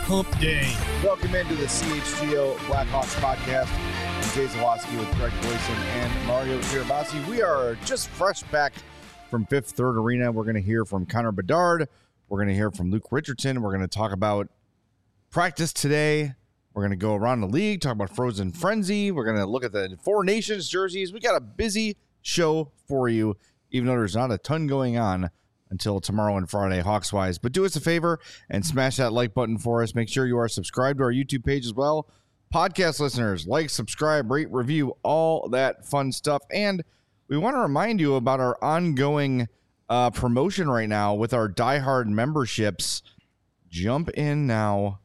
hump day. Welcome into the CHGO Blackhawks podcast. I'm Jay Zawoski with Greg Boyson and Mario Tirabassi. We are just fresh back from Fifth Third Arena. We're going to hear from Connor Bedard. We're going to hear from Luke Richardson. We're going to talk about practice today. We're going to go around the league, talk about Frozen Frenzy. We're going to look at the Four Nations jerseys. We got a busy show for you, even though there's not a ton going on until tomorrow and Friday, Hawks-wise. But do us a favor and smash that like button for us. Make sure you are subscribed to our YouTube page as well. Podcast listeners, like, subscribe, rate, review, all that fun stuff. And we want to remind you about our ongoing promotion right now with our Die Hard memberships. Jump in now.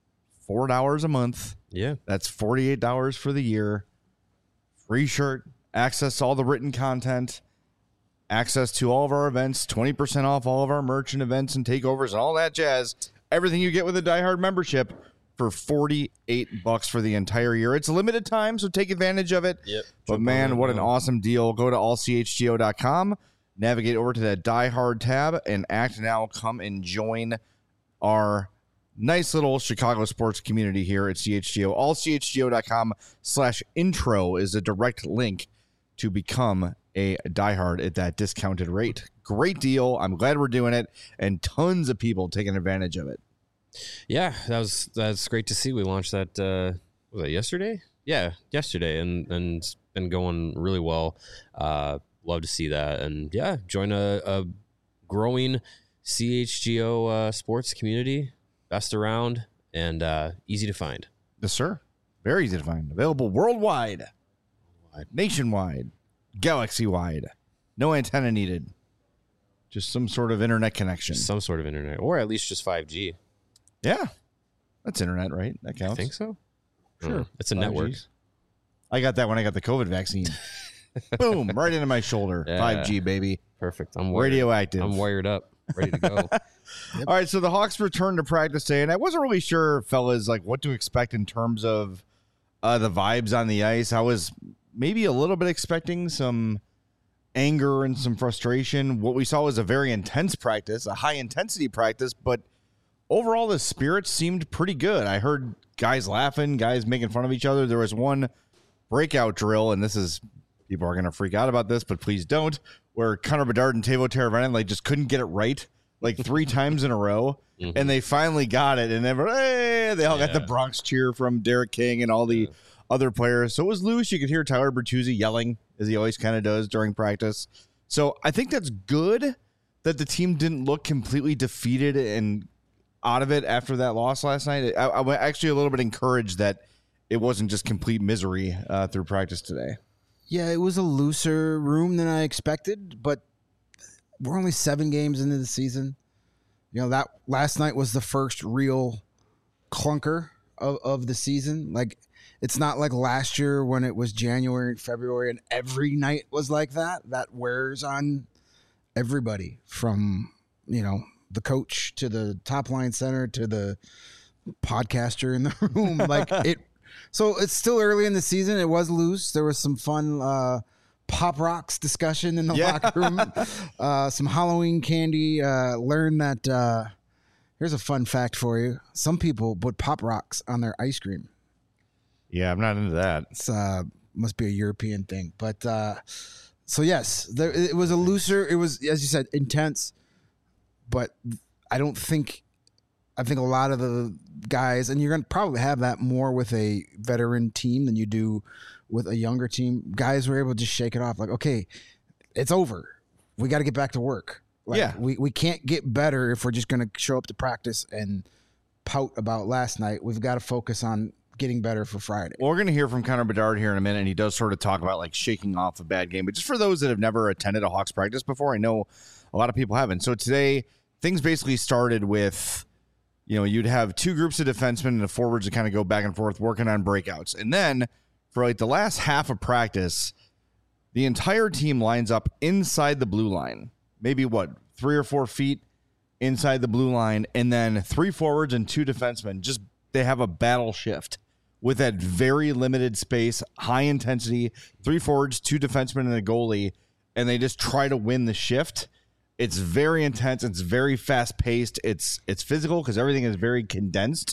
$4 a month. Yeah. That's $48 for the year. Free shirt, access to all the written content, access to all of our events, 20% off all of our merch and events and takeovers and all that jazz. Everything you get with a Die Hard membership for $48 for the entire year. It's a limited time, so take advantage of it. Yep. But man, what an awesome deal. Go to allchgo.com, navigate over to that Die Hard tab, and act now. Come and join our nice little Chicago sports community here at CHGO. Allchgo.com/intro is a direct link to become a diehard at that discounted rate. Great deal. I'm glad we're doing it, and tons of people taking advantage of it. Yeah, that's great to see. We launched that, was that yesterday? Yeah, yesterday, and it's been going really well. Love to see that. And yeah, join a growing CHGO sports community. Best around and easy to find. Yes, sir. Very easy to find. Available worldwide, nationwide, galaxy-wide. No antenna needed. Just some sort of internet connection. Some sort of internet, or at least just 5G. Yeah. That's internet, right? That counts. I think so. Sure. It's a 5Gs. network. I got that when I got the COVID vaccine. Boom. Right into my shoulder. Yeah. 5G, baby. Perfect. Radioactive. I'm wired up. Ready to go. Yep. All right, so the Hawks returned to practice today, and I wasn't really sure, fellas, like what to expect in terms of the vibes on the ice. I was maybe a little bit expecting some anger and some frustration. What we saw was a very intense practice, a high-intensity practice, but overall the spirits seemed pretty good. I heard guys laughing, guys making fun of each other. There was one breakout drill, and this is, people are going to freak out about this, but please don't, where Connor Bedard and Teuvo Teravainen just couldn't get it right. Like 3 times in a row, and they finally got it, and they all got the Bronx cheer from Derek King and all the other players. So it was loose. You could hear Tyler Bertuzzi yelling, as he always kind of does during practice. So I think that's good that the team didn't look completely defeated and out of it after that loss last night. I'm actually a little bit encouraged that it wasn't just complete misery through practice today. Yeah, it was a looser room than I expected, but we're only 7 games into the season. You know, that last night was the first real clunker of the season. Like, it's not like last year when it was January and February and every night was like that. That wears on everybody from, you know, the coach to the top line center to the podcaster in the room. So it's still early in the season. It was loose. There was some fun Pop Rocks discussion in the locker room. Some Halloween candy. Learn that here's a fun fact for you. Some people put Pop Rocks on their ice cream. Yeah, I'm not into that. It's must be a European thing. But so yes, it was a looser. It was, as you said, intense. But I think a lot of the guys, and you're going to probably have that more with a veteran team than you do with a younger team. Guys were able to just shake it off. Like, okay, it's over. We got to get back to work. We can't get better if we're just going to show up to practice and pout about last night. We've got to focus on getting better for Friday. Well, we're going to hear from Connor Bedard here in a minute, and he does sort of talk about like shaking off a bad game. But just for those that have never attended a Hawks practice before, I know a lot of people haven't. So today, things basically started with, you know, you'd have 2 groups of defensemen and the forwards to kind of go back and forth working on breakouts. And then for like the last half of practice, the entire team lines up inside the blue line, maybe 3 or 4 feet inside the blue line. And then 3 forwards and 2 defensemen, just they have a battle shift with that very limited space, high intensity, 3 forwards, 2 defensemen and a goalie. And they just try to win the shift. It's very intense. It's very fast paced. It's physical because everything is very condensed.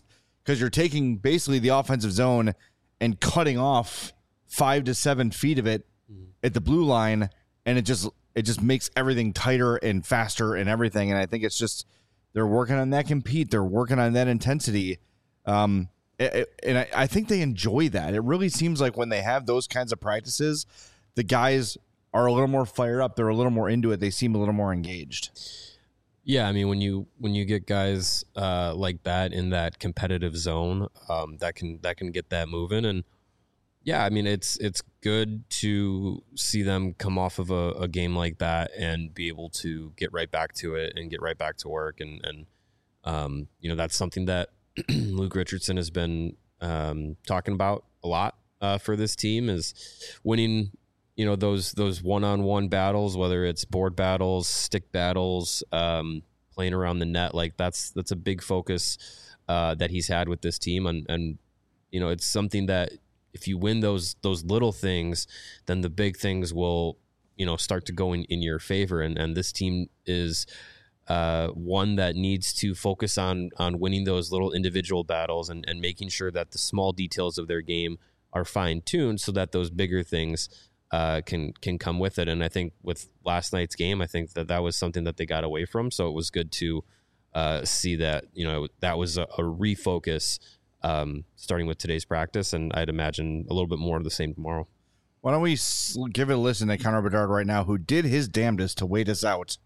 because you're taking basically the offensive zone and cutting off 5 to 7 feet of it at the blue line, and it just makes everything tighter and faster and everything. And I think it's just they're working on that compete. They're working on that intensity. And I think they enjoy that. It really seems like when they have those kinds of practices, the guys are a little more fired up. They're a little more into it. They seem a little more engaged. Yeah, I mean, when you get guys like that in that competitive zone, that can get that moving. And yeah, I mean, it's good to see them come off of a game like that and be able to get right back to it and get right back to work. And that's something that Luke Richardson has been talking about a lot for this team, is winning, those one-on-one battles, whether it's board battles, stick battles, playing around the net. Like that's a big focus that he's had with this team. And it's something that if you win those little things, then the big things will, start to go in your favor. And this team is one that needs to focus on winning those little individual battles and making sure that the small details of their game are fine-tuned so that those bigger things can come with it. And I think with last night's game, I think that was something that they got away from. So it was good to see that, that was a refocus starting with today's practice. And I'd imagine a little bit more of the same tomorrow. Why don't we give it a listen to Connor Bedard right now, who did his damnedest to wait us out.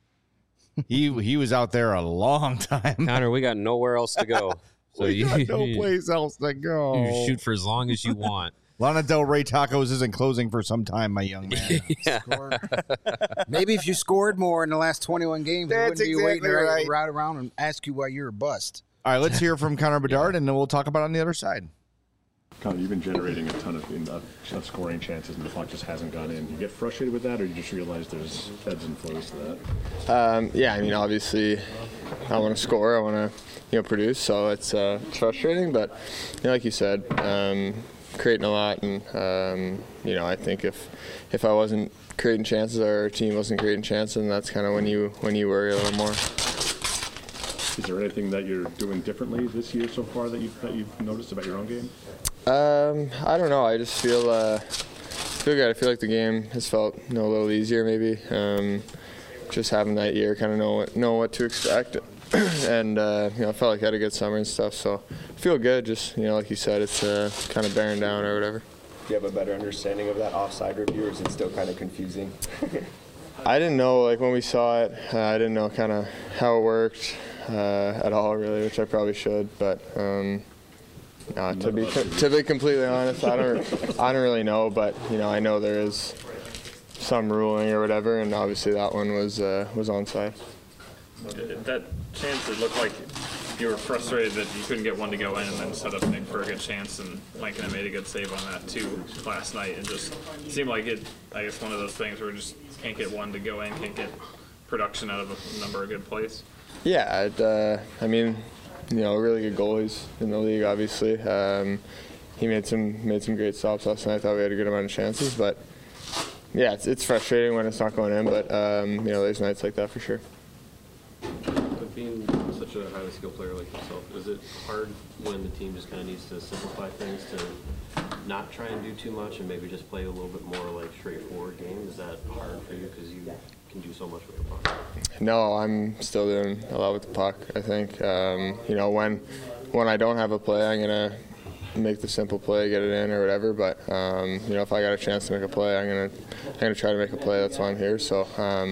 He was out there a long time. Connor, we got nowhere else to go. So we got no place else to go. You shoot for as long as you want. Lana Del Rey Tacos isn't closing for some time, my young man. Yeah. Maybe if you scored more in the last 21 games, I wouldn't be waiting right around and ask you why you're a bust. All right, let's hear from Connor Bedard, and then we'll talk about it on the other side. Connor, you've been generating a ton of scoring chances, and the puck just hasn't gone in. Do you get frustrated with that, or you just realize there's ebbs and flows to that? Yeah, I mean, obviously, I want to score. I want to, produce. So it's frustrating, but like you said, creating a lot, and I think if I wasn't creating chances, or our team wasn't creating chances, then that's kind of when you worry a little more. Is there anything that you're doing differently this year so far that you've noticed about your own game? I don't know. I just feel good. I feel like the game has felt a little easier maybe. Just having that year, kind of know what to expect, and I felt like I had a good summer and stuff. So I feel good. Just like you said, it's kind of bearing down or whatever. Do you have a better understanding of that offside review, or is it still kind of confusing? I didn't know, when we saw it, I didn't know kind of how it worked at all, really, which I probably should. But to be completely honest, I don't really know. But I know there is some ruling or whatever, and obviously that one was onside. That chance, it looked like you were frustrated that you couldn't get one to go in, and then set up Nick for a good chance, and Lankinen made a good save on that too last night. It just seemed like it, I guess, one of those things where we just can't get one to go in, can't get production out of a number of good plays. Yeah, I mean, really good goalies in the league, obviously. He made some great stops last night. I thought we had a good amount of chances, but yeah, it's frustrating when it's not going in, but there's nights like that for sure. But being such a highly skilled player like yourself, is it hard when the team just kind of needs to simplify things to not try and do too much and maybe just play a little bit more like straightforward game? Is that hard for you because you can do so much with the puck? No, I'm still doing a lot with the puck. I think when I don't have a play, I'm gonna make the simple play, get it in or whatever. But if I got a chance to make a play, I'm gonna try to make a play. That's why I'm here. So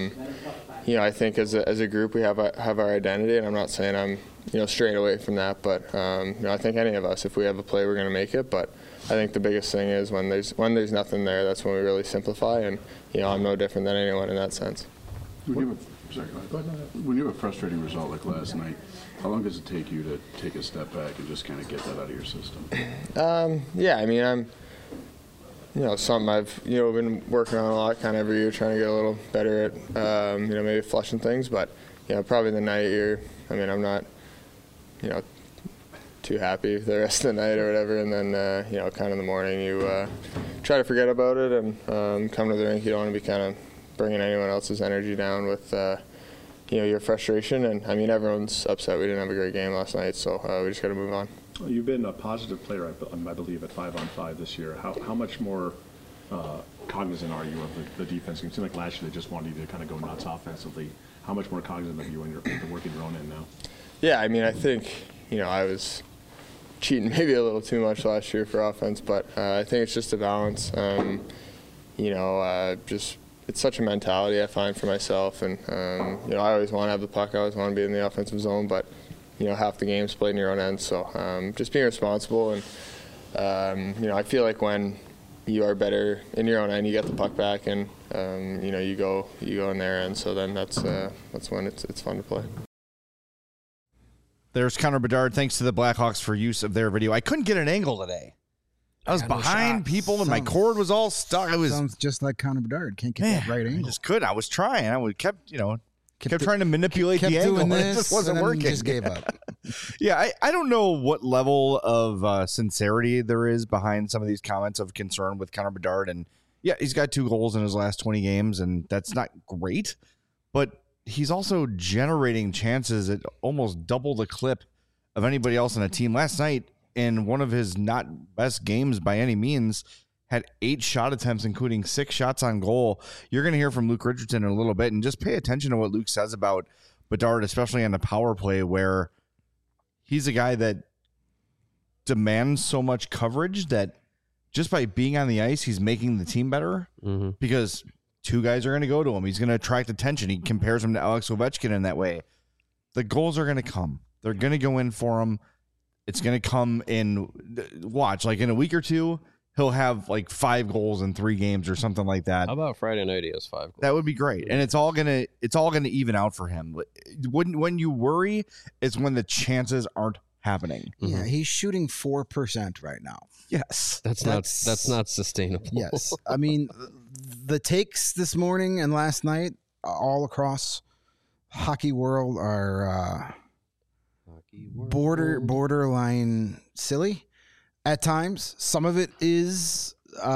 I think as a group we have our identity, and I'm not saying I'm straight away from that, but I think any of us, if we have a play, we're gonna make it. But I think the biggest thing is when there's nothing there, that's when we really simplify, and I'm no different than anyone in that sense. When you have a frustrating result like last night, how long does it take you to take a step back and just kind of get that out of your system? Yeah, I mean, I'm something I've been working on a lot, kind of every year, trying to get a little better at maybe flushing things. But probably the night I'm not too happy the rest of the night or whatever, and then kind of in the morning you try to forget about it and come to the rink. You don't want to be kind of bringing anyone else's energy down with your frustration. And I mean, everyone's upset we didn't have a great game last night, so we just got to move on. You've been a positive player, I believe, at 5-on-5 this year. How much more cognizant are you of the defense? It seemed like last year they just wanted you to kind of go nuts offensively. How much more cognizant are you in the work in your own end now? Yeah, I mean, I think, I was cheating maybe a little too much last year for offense, but I think it's just a balance. Just it's such a mentality I find for myself, and I always want to have the puck. I always want to be in the offensive zone, but half the game's played in your own end. So just being responsible, and I feel like when you are better in your own end, you get the puck back, and you go in their end. So then that's when it's fun to play. There's Connor Bedard. Thanks to the Blackhawks for use of their video. I couldn't get an angle today. I was behind people, and my cord was all stuck. Sounds just like Connor Bedard. Can't get that right angle. I just couldn't. I was trying. kept trying to manipulate the angle. And it just wasn't working. Just gave up. Yeah, I don't know what level of sincerity there is behind some of these comments of concern with Connor Bedard. And yeah, he's got 2 goals in his last 20 games, and that's not great. But he's also generating chances at almost double the clip of anybody else on a team. Last night, in one of his not best games by any means, had 8 shot attempts, including 6 shots on goal. You're going to hear from Luke Richardson in a little bit, and just pay attention to what Luke says about Bedard, especially on the power play, where he's a guy that demands so much coverage that just by being on the ice, he's making the team better because 2 guys are going to go to him. He's going to attract attention. He compares him to Alex Ovechkin in that way. The goals are going to come. They're going to go in for him. It's going to come in, watch, like in a week or 2, he'll have like 5 goals in 3 games or something like that. How about Friday night he has 5 goals? That would be great. And it's all gonna even out for him. When you worry, it's when the chances aren't happening. Yeah, he's shooting 4% right now. Yes. That's not sustainable. Yes. I mean, the takes this morning and last night all across hockey world are borderline silly at times. Some of it is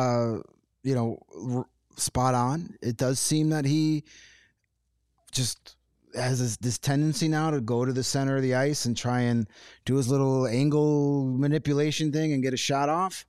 spot on. It does seem that he just has this tendency now to go to the center of the ice and try and do his little angle manipulation thing and get a shot off.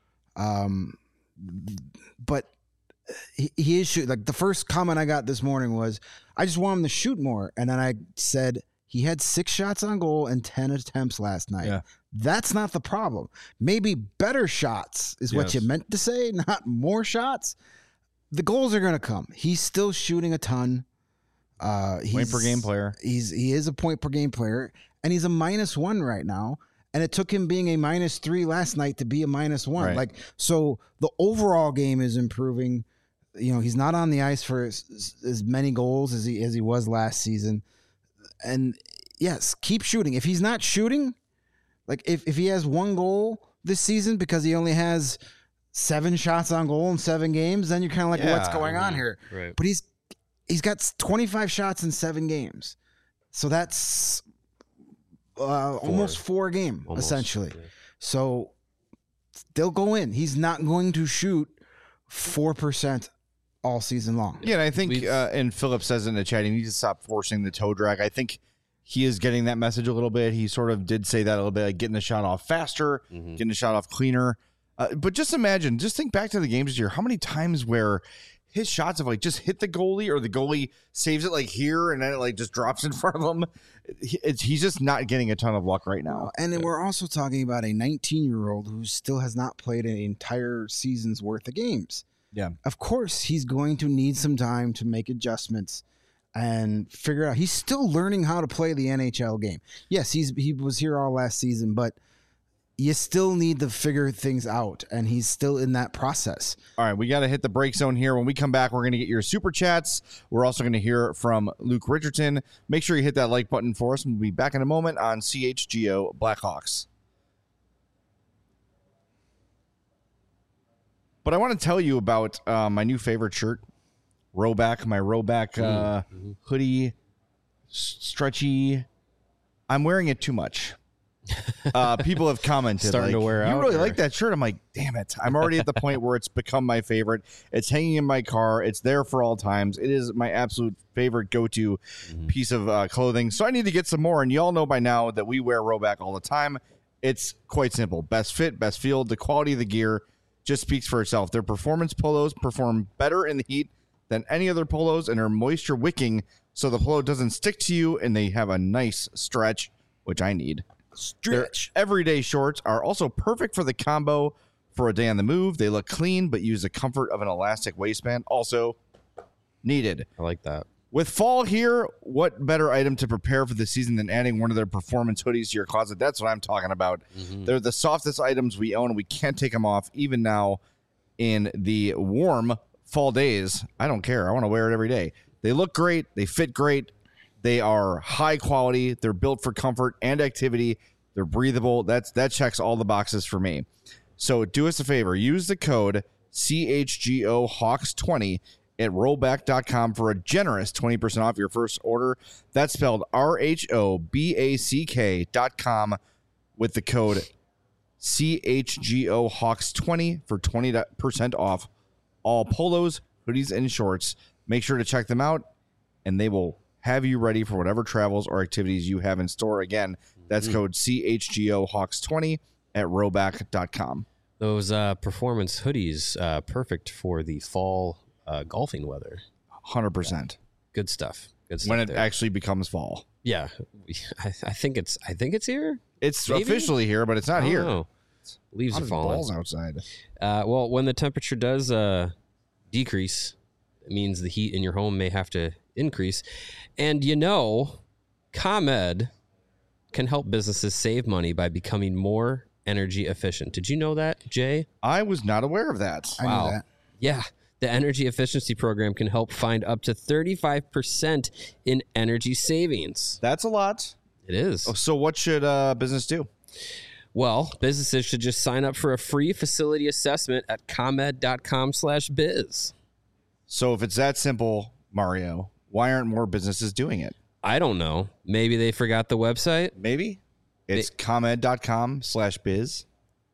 But he is shooting. Like the first comment I got this morning was, I just want him to shoot more. And then I said, he had 6 shots on goal and 10 attempts last night. Yeah. That's not the problem. Maybe better shots is what you meant to say, not more shots. The goals are going to come. He's still shooting a ton. Point per game player. He is a point per game player, and he's a -1 right now. And it took him being a -3 last night to be a -1. Right. So the overall game is improving. He's not on the ice for as many goals as he was last season. And yes, keep shooting. If he's not shooting, like if he has 1 goal this season because he only has 7 shots on goal in 7 games, then you're kind of like, what's going on here? Right. But he's got 25 shots in 7 games. So that's almost 4 a game, essentially. Yeah. So they'll go in. He's not going to shoot 4% all season long. Yeah, and I think, and Philip says in the chat, he needs to stop forcing the toe drag. I think he is getting that message a little bit. He sort of did say that a little bit, like getting the shot off faster, getting the shot off cleaner. But just think back to the games this year. How many times where his shots have just hit the goalie, or the goalie saves it here and then it just drops in front of him. He's just not getting a ton of luck right now. And then we're also talking about a 19-year-old who still has not played an entire season's worth of games. Yeah. Of course, he's going to need some time to make adjustments and figure out. He's still learning how to play the NHL game. Yes, he was here all last season, but you still need to figure things out, and he's still in that process. All right, we got to hit the break zone here. When we come back, we're going to get your super chats. We're also going to hear from Luke Richardson. Make sure you hit that like button for us, and we'll be back in a moment on CHGO Blackhawks. But I want to tell you about my new favorite shirt, Rowback, my Rowback hoodie, stretchy. I'm wearing it too much. People have commented, starting to wear out. You really like that shirt? I'm like, damn it. I'm already at the point where it's become my favorite. It's hanging in my car. It's there for all times. It is my absolute favorite go-to piece of clothing. So I need to get some more. And you all know by now that we wear Rowback all the time. It's quite simple. Best fit, best feel. The quality of the gear just speaks for itself. Their performance polos perform better in the heat than any other polos and are moisture wicking so the polo doesn't stick to you and they have a nice stretch, which I need. Stretch. Their everyday shorts are also perfect for the combo for a day on the move. They look clean but use the comfort of an elastic waistband. Also needed. I like that. With fall here, what better item to prepare for the season than adding one of their performance hoodies to your closet? That's what I'm talking about. They're the softest items we own, and we can't take them off even now in the warm fall days. I don't care. I want to wear it every day. They look great. They fit great. They are high quality. They're built for comfort and activity. They're breathable. That checks all the boxes for me. So do us a favor. Use the code CHGOHawks20 at rollback.com for a generous 20% off your first order. That's spelled RHOBACK.com with the code CHGOHawks20 for 20% off all polos, hoodies, and shorts. Make sure to check them out, and they will have you ready for whatever travels or activities you have in store. Again, that's code CHGOHawks20 at rollback.com. Those performance hoodies, perfect for the fall golfing weather. 100%. Good stuff. Good stuff. When it there. actually becomes fall. Yeah, I think it's here. It's Maybe? officially here, but it's not here. Oh, leaves are falling. Balls outside. Well, when the temperature does decrease, it means the heat in your home may have to increase. And ComEd can help businesses save money by becoming more energy efficient. Did you know that, Jay? I was not aware of that. I knew that. Yeah. The energy efficiency program can help find up to 35% in energy savings. That's a lot. It is. So what should business do? Well, businesses should just sign up for a free facility assessment at comed.com/biz. So if it's that simple, Mario, why aren't more businesses doing it? I don't know. Maybe they forgot the website. Maybe it's comed.com/biz,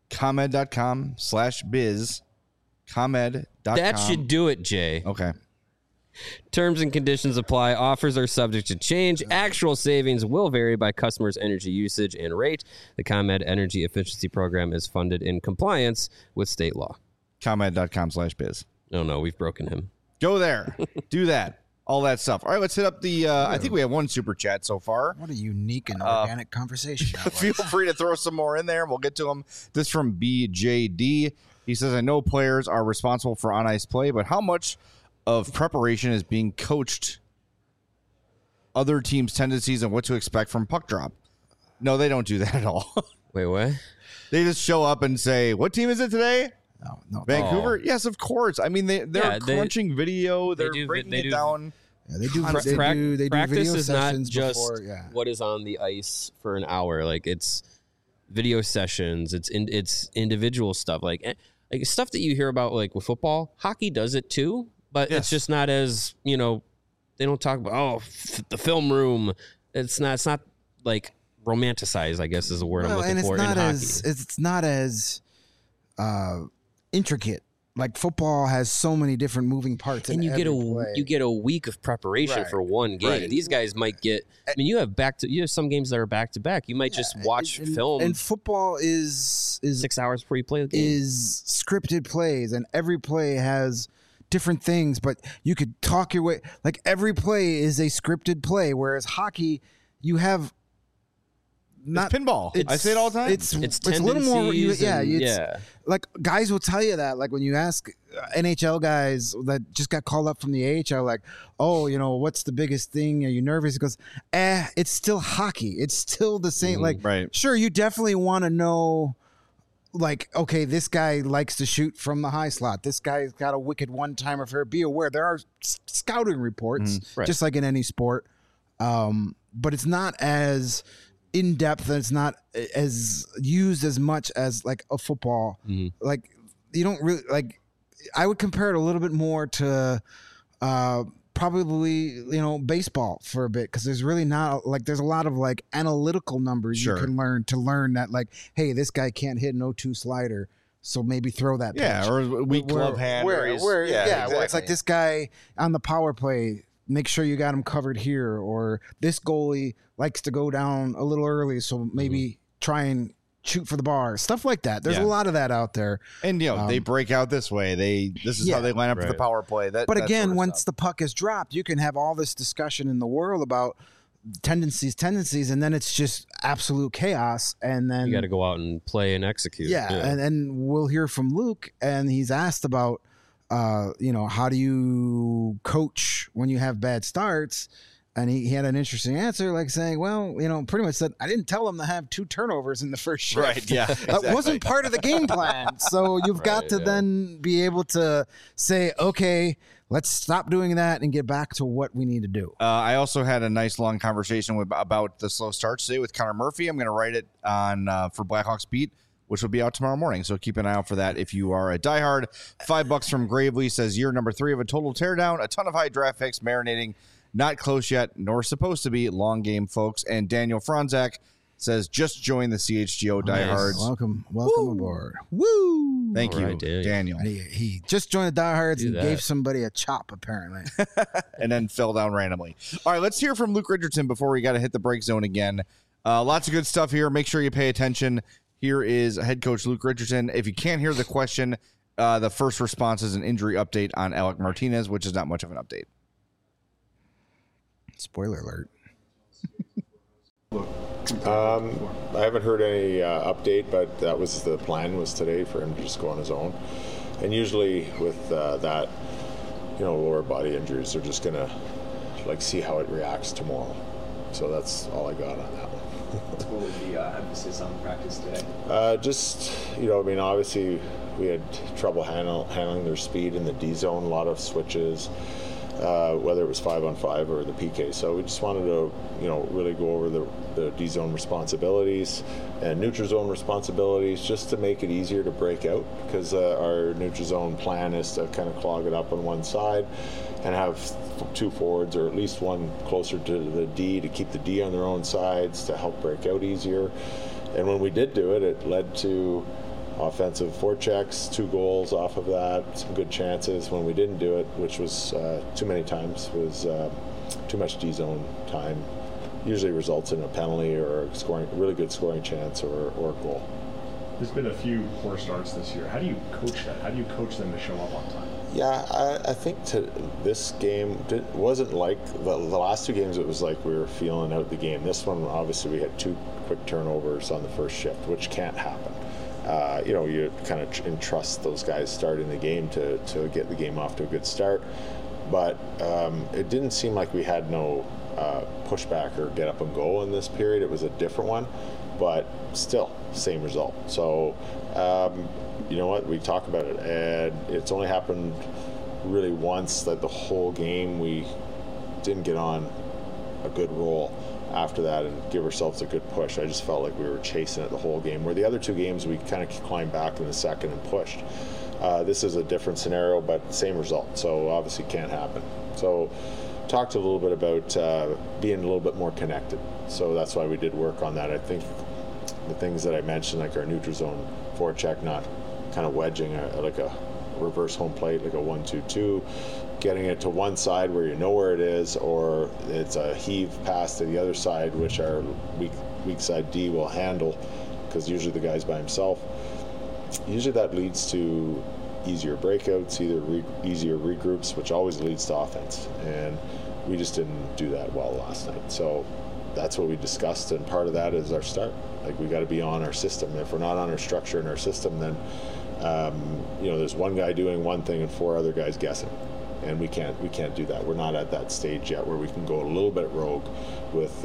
comed.com/biz, comed.com. That should do it, Jay. Okay. Terms and conditions apply. Offers are subject to change. Actual savings will vary by customer's energy usage and rate. The ComEd Energy Efficiency Program is funded in compliance with state law. comed.com/biz. No, we've broken him. Go there. Do that. All that stuff. All right, let's hit up the I think we have one super chat so far. What a unique and organic conversation that was. Feel free to throw some more in there. We'll get to them. This from BJD. He says, I know players are responsible for on-ice play, but how much of preparation is being coached other teams' tendencies and what to expect from puck drop? No, they don't do that at all. Wait, what? They just show up and say, what team is it today? No. Vancouver? Yes, of course. I mean, they're crunching video. They're breaking it down. Yeah, they do Practice video is not sessions just before, yeah. what is on the ice for an hour. Like, it's video sessions. It's individual stuff. Like stuff that you hear about, like with football. Hockey does it too, but it's just not as, they don't talk about the film room. It's not like romanticized, I guess is the word I'm looking for in hockey. It's not as intricate. Like football has so many different moving parts, and you get a week of preparation for one game. Right. These guys might get. I mean, you have some games that are back to back. You might just watch film. And football is 6 hours before you play the game. Is scripted plays, and every play has different things. But you could talk your way. Like every play is a scripted play, whereas hockey, you have. Not pinball. I say it all the time. It's a little more. Yeah. Like guys will tell you that. Like when you ask NHL guys that just got called up from the AHL, like, oh, what's the biggest thing? Are you nervous? He goes, it's still hockey. It's still the same. Right. Sure, you definitely want to know. Like, okay, this guy likes to shoot from the high slot. This guy's got a wicked one-timer for. Be aware there are scouting reports, just like in any sport, but it's not as in depth, and it's not as used as much as like a football. Like you don't really like. I would compare it a little bit more to probably baseball for a bit, because there's really not like there's a lot of like analytical numbers you can learn that like, hey, this guy can't hit an 0-2 slider, so maybe throw that pitch. Or weak glove hand. Where exactly. it's like this guy on the power play, make sure you got him covered here, or this goalie likes to go down a little early, so maybe try and shoot for the bar, stuff like that. There's Yeah. a lot of that out there. And they break out this way. This is how they line up for the power play. But that again, sort of once stuff. the puck is dropped, you can have all this discussion in the world about tendencies, and then it's just absolute chaos. And then You got to go out and play and execute. and we'll hear from Luke, and he's asked about, how do you coach when you have bad starts? And he had an interesting answer, like saying, well, pretty much said, I didn't tell him to have 2 turnovers in the first shift. Right, yeah, That wasn't part of the game plan. So you've got to then be able to say, okay, let's stop doing that and get back to what we need to do. I also had a nice long conversation about the slow starts today with Connor Murphy. I'm going to write it on for Blackhawks Beat, which will be out tomorrow morning. So keep an eye out for that if you are a diehard. $5 from Gravely says year number 3 of a total teardown, a ton of high draft picks marinating. Not close yet, nor supposed to be. Long game, folks. And Daniel Franzak says, just join the CHGO diehards. Welcome aboard. Woo! Thank All you, right, Daniel. He just joined the diehards Do and that. gave somebody a chop, apparently. And then fell down randomly. All right, let's hear from Luke Richardson before we got to hit the break zone again. Lots of good stuff here. Make sure you pay attention. Here is head coach Luke Richardson. If you can't hear the question, the first response is an injury update on Alec Martinez, which is not much of an update. Spoiler alert. I haven't heard any update, but that was the plan, was today for him to just go on his own. And usually with that, lower body injuries, they're just gonna see how it reacts tomorrow. So that's all I got on that one. What would the emphasis on practice today? Obviously we had trouble handling their speed in the D zone, a lot of switches. Whether it was 5-on-5 or the PK. So we just wanted to, really go over the D zone responsibilities and neutral zone responsibilities, just to make it easier to break out, because our neutral zone plan is to kind of clog it up on one side and have 2 forwards, or at least one closer to the D, to keep the D on their own sides to help break out easier. And when we did do it, it led to offensive forechecks, 2 goals off of that, some good chances. When we didn't do it, which was too many times, was too much D-zone time, usually results in a penalty or a really good scoring chance or a goal. There's been a few poor starts this year. How do you coach that? How do you coach them to show up on time? Yeah, I think this game wasn't like the last 2 games. It was like we were feeling out the game. This one, obviously, we had 2 quick turnovers on the first shift, which can't happen. You kind of entrust those guys starting the game to get the game off to a good start. But it didn't seem like we had no pushback or get up and go in this period. It was a different one, but still, same result. So, you know what? We talk about it, and it's only happened really once, that the whole game we didn't get on a good roll after that and give ourselves a good push. I just felt like we were chasing it the whole game, where the other 2 games we kind of climbed back in the second and pushed. This is a different scenario, but same result, so obviously can't happen. So talked a little bit about being a little bit more connected, so that's why we did work on that. I think the things that I mentioned, like our neutral zone forecheck, not kind of wedging like a reverse home plate, like a 1-2-2, getting it to one side where you know where it is, or it's a heave pass to the other side, which our weak side D will handle, because usually the guy's by himself. Usually that leads to easier breakouts, easier regroups, which always leads to offense. And we just didn't do that well last night. So that's what we discussed, and part of that is our start. Like, we got to be on our system. If we're not on our structure and our system, then there's one guy doing one thing and 4 other guys guessing. And we can't do that. We're not at that stage yet where we can go a little bit rogue with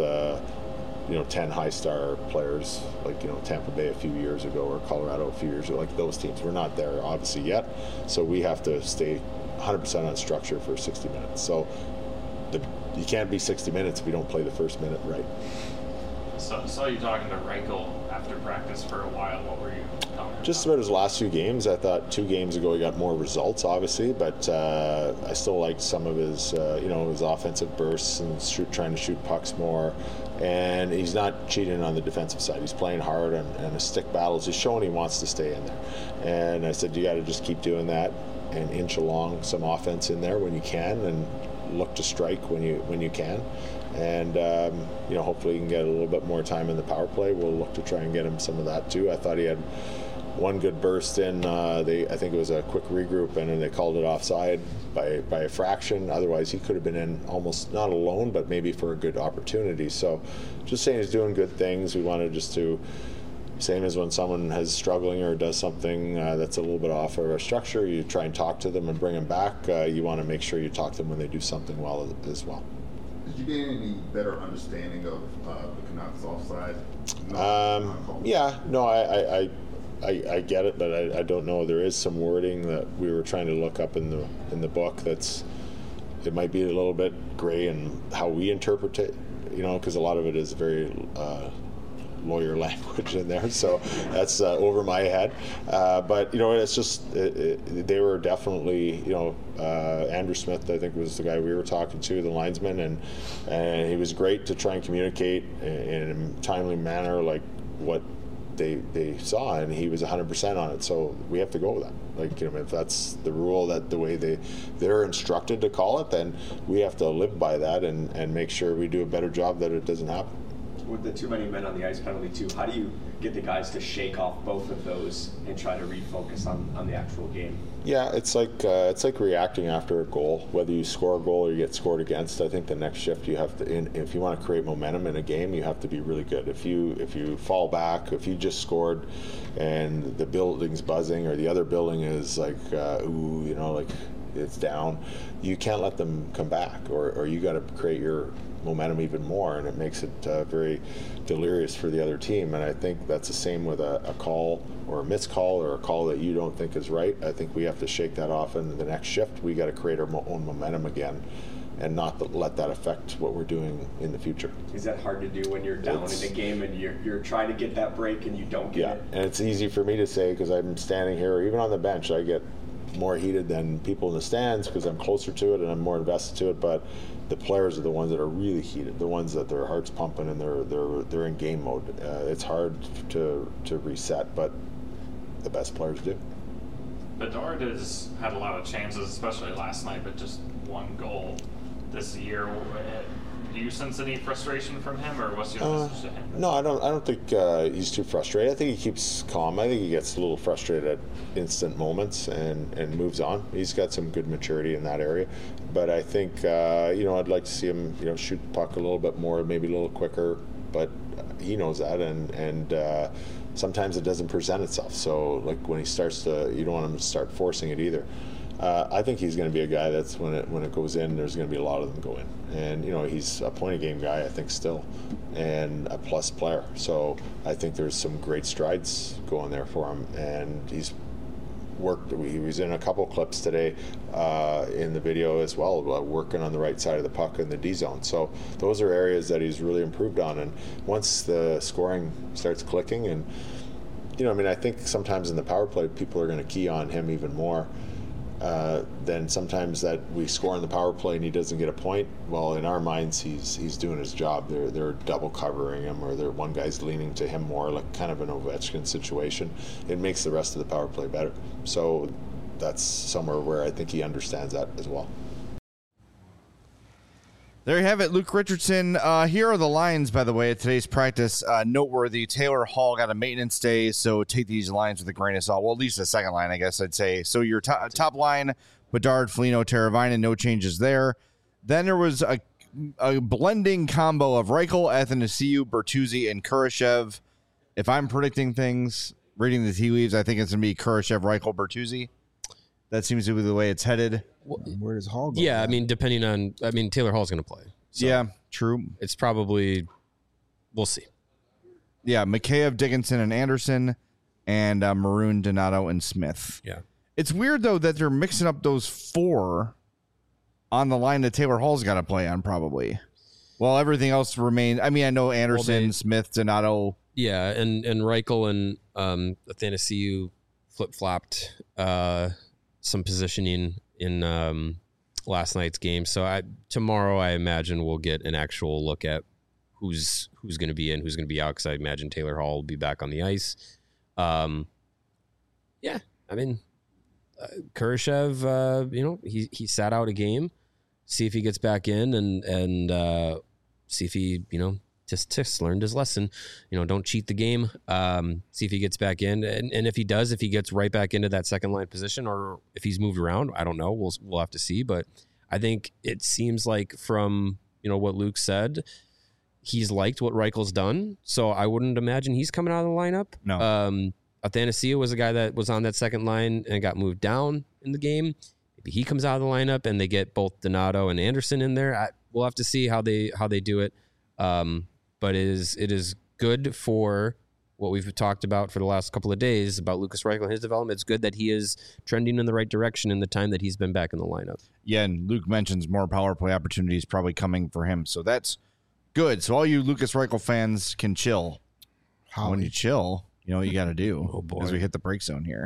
10 high-star players like Tampa Bay a few years ago, or Colorado a few years ago, like those teams. We're not there obviously yet, so we have to stay 100% on structure for 60 minutes. So you can't be 60 minutes if we don't play the first minute right. So, saw you talking to Reichel after practice for a while. What were you talking Just about his last few games. I thought 2 games ago he got more results, obviously, but I still liked some of his, his offensive bursts and trying to shoot pucks more. And he's not cheating on the defensive side. He's playing hard and his stick battles. He's showing he wants to stay in there. And I said, you got to just keep doing that and inch along some offense in there when you can, and look to strike when you can, and hopefully he can get a little bit more time in the power play. We'll look to try and get him some of that too. I thought he had one good burst in. I think it was a quick regroup, and then they called it offside by a fraction. Otherwise, he could have been in almost not alone, but maybe for a good opportunity. So, just saying he's doing good things. We wanted just to. Same as when someone is struggling or does something that's a little bit off of our structure, you try and talk to them and bring them back. You want to make sure you talk to them when they do something well as well. Did you gain any better understanding of the Canucks offside? Yeah, no, I get it, but I don't know. There is some wording that we were trying to look up in the book it might be a little bit gray in how we interpret it, because a lot of it is very lawyer language in there, so that's over my head. But it's just they were definitely Andrew Smith, I think, was the guy we were talking to, the linesman, and he was great to try and communicate in a timely manner like what they saw, and he was 100% on it. So we have to go with that. If that's the rule, that the way they're instructed to call it, then we have to live by that and make sure we do a better job that it doesn't happen. With the too many men on the ice penalty too, how do you get the guys to shake off both of those and try to refocus on the actual game? Yeah, it's like reacting after a goal, whether you score a goal or you get scored against. I think the next shift you have to, if you want to create momentum in a game, you have to be really good. If you fall back, if you just scored and the building's buzzing or the other building is like it's down, you can't let them come back, or you got to create your momentum even more, and it makes it very delirious for the other team. And I think that's the same with a call or a missed call or a call that you don't think is right. I think we have to shake that off in the next shift. We got to create our own momentum again and not let that affect what we're doing in the future. Is that hard to do when you're down in a game and you're trying to get that break and you don't get it? And it's easy for me to say because I'm standing here, or even on the bench, I get more heated than people in the stands because I'm closer to it and I'm more invested to it. But the players are the ones that are really heated, the ones that their heart's pumping and they're in game mode. It's hard to reset, but the best players do. Bedard has had a lot of chances, especially last night, but just one goal this year. Do you sense any frustration from him, or what's your message to him? No, I don't think he's too frustrated. I think he keeps calm. I think he gets a little frustrated at instant moments and moves on. He's got some good maturity in that area. But I think, I'd like to see him, shoot the puck a little bit more, maybe a little quicker. But he knows that, and sometimes it doesn't present itself. So, like when he starts you don't want him to start forcing it either. I think he's going to be a guy that's when it goes in, there's going to be a lot of them go in. And, he's a point-a-game guy, I think, still, and a plus player. So I think there's some great strides going there for him. And he's worked. He was in a couple clips today in the video as well, working on the right side of the puck in the D zone. So those are areas that he's really improved on. And once the scoring starts clicking, and, I think sometimes in the power play, people are going to key on him even more. Then sometimes that we score in the power play and he doesn't get a point. Well, in our minds, he's doing his job. They're double covering him, or one guy's leaning to him more, like kind of an Ovechkin situation. It makes the rest of the power play better. So that's somewhere where I think he understands that as well. There you have it, Luke Richardson. Here are the lines, by the way, at today's practice. Noteworthy, Taylor Hall got a maintenance day, so take these lines with a grain of salt. Well, at least the second line, I guess I'd say. So your top line, Bedard, Foligno, Teravainen, no changes there. Then there was a blending combo of Reichel, Athanasiou, Bertuzzi, and Kurashev. If I'm predicting things, reading the tea leaves, I think it's going to be Kurashev, Reichel, Bertuzzi. That seems to be the way it's headed. Where does Hall go? Yeah, Taylor Hall's going to play. So yeah, true. It's probably, we'll see. Yeah, Mikheyev, Dickinson, and Anderson, and Maroon, Donato, and Smith. Yeah. It's weird, though, that they're mixing up those four on the line that Taylor Hall's got to play on, probably. Well, everything else remains. I know Anderson, Smith, Donato. Yeah, and Reichel and Athanasiou flip-flopped some positioning in last night's game. So tomorrow, I imagine we'll get an actual look at who's going to be in, who's going to be out, because I imagine Taylor Hall will be back on the ice. Kurashev, he sat out a game, see if he gets back in and see if he, just learned his lesson. Don't cheat the game. See if he gets back in, and if he does, if he gets right back into that second line position, or if he's moved around, I don't know. We'll have to see. But I think it seems like from what Luke said, he's liked what Reichel's done. So I wouldn't imagine he's coming out of the lineup. No. Athanasiou was a guy that was on that second line and got moved down in the game. Maybe he comes out of the lineup and they get both Donato and Anderson in there. We'll have to see how they do it. But it is good for what we've talked about for the last couple of days about Lukas Reichel and his development. It's good that he is trending in the right direction in the time that he's been back in the lineup. Yeah, and Luke mentions more power play opportunities probably coming for him, so that's good. So all you Lukas Reichel fans can chill. When you chill, you know what you got to do. Oh, boy. As we hit the break zone here.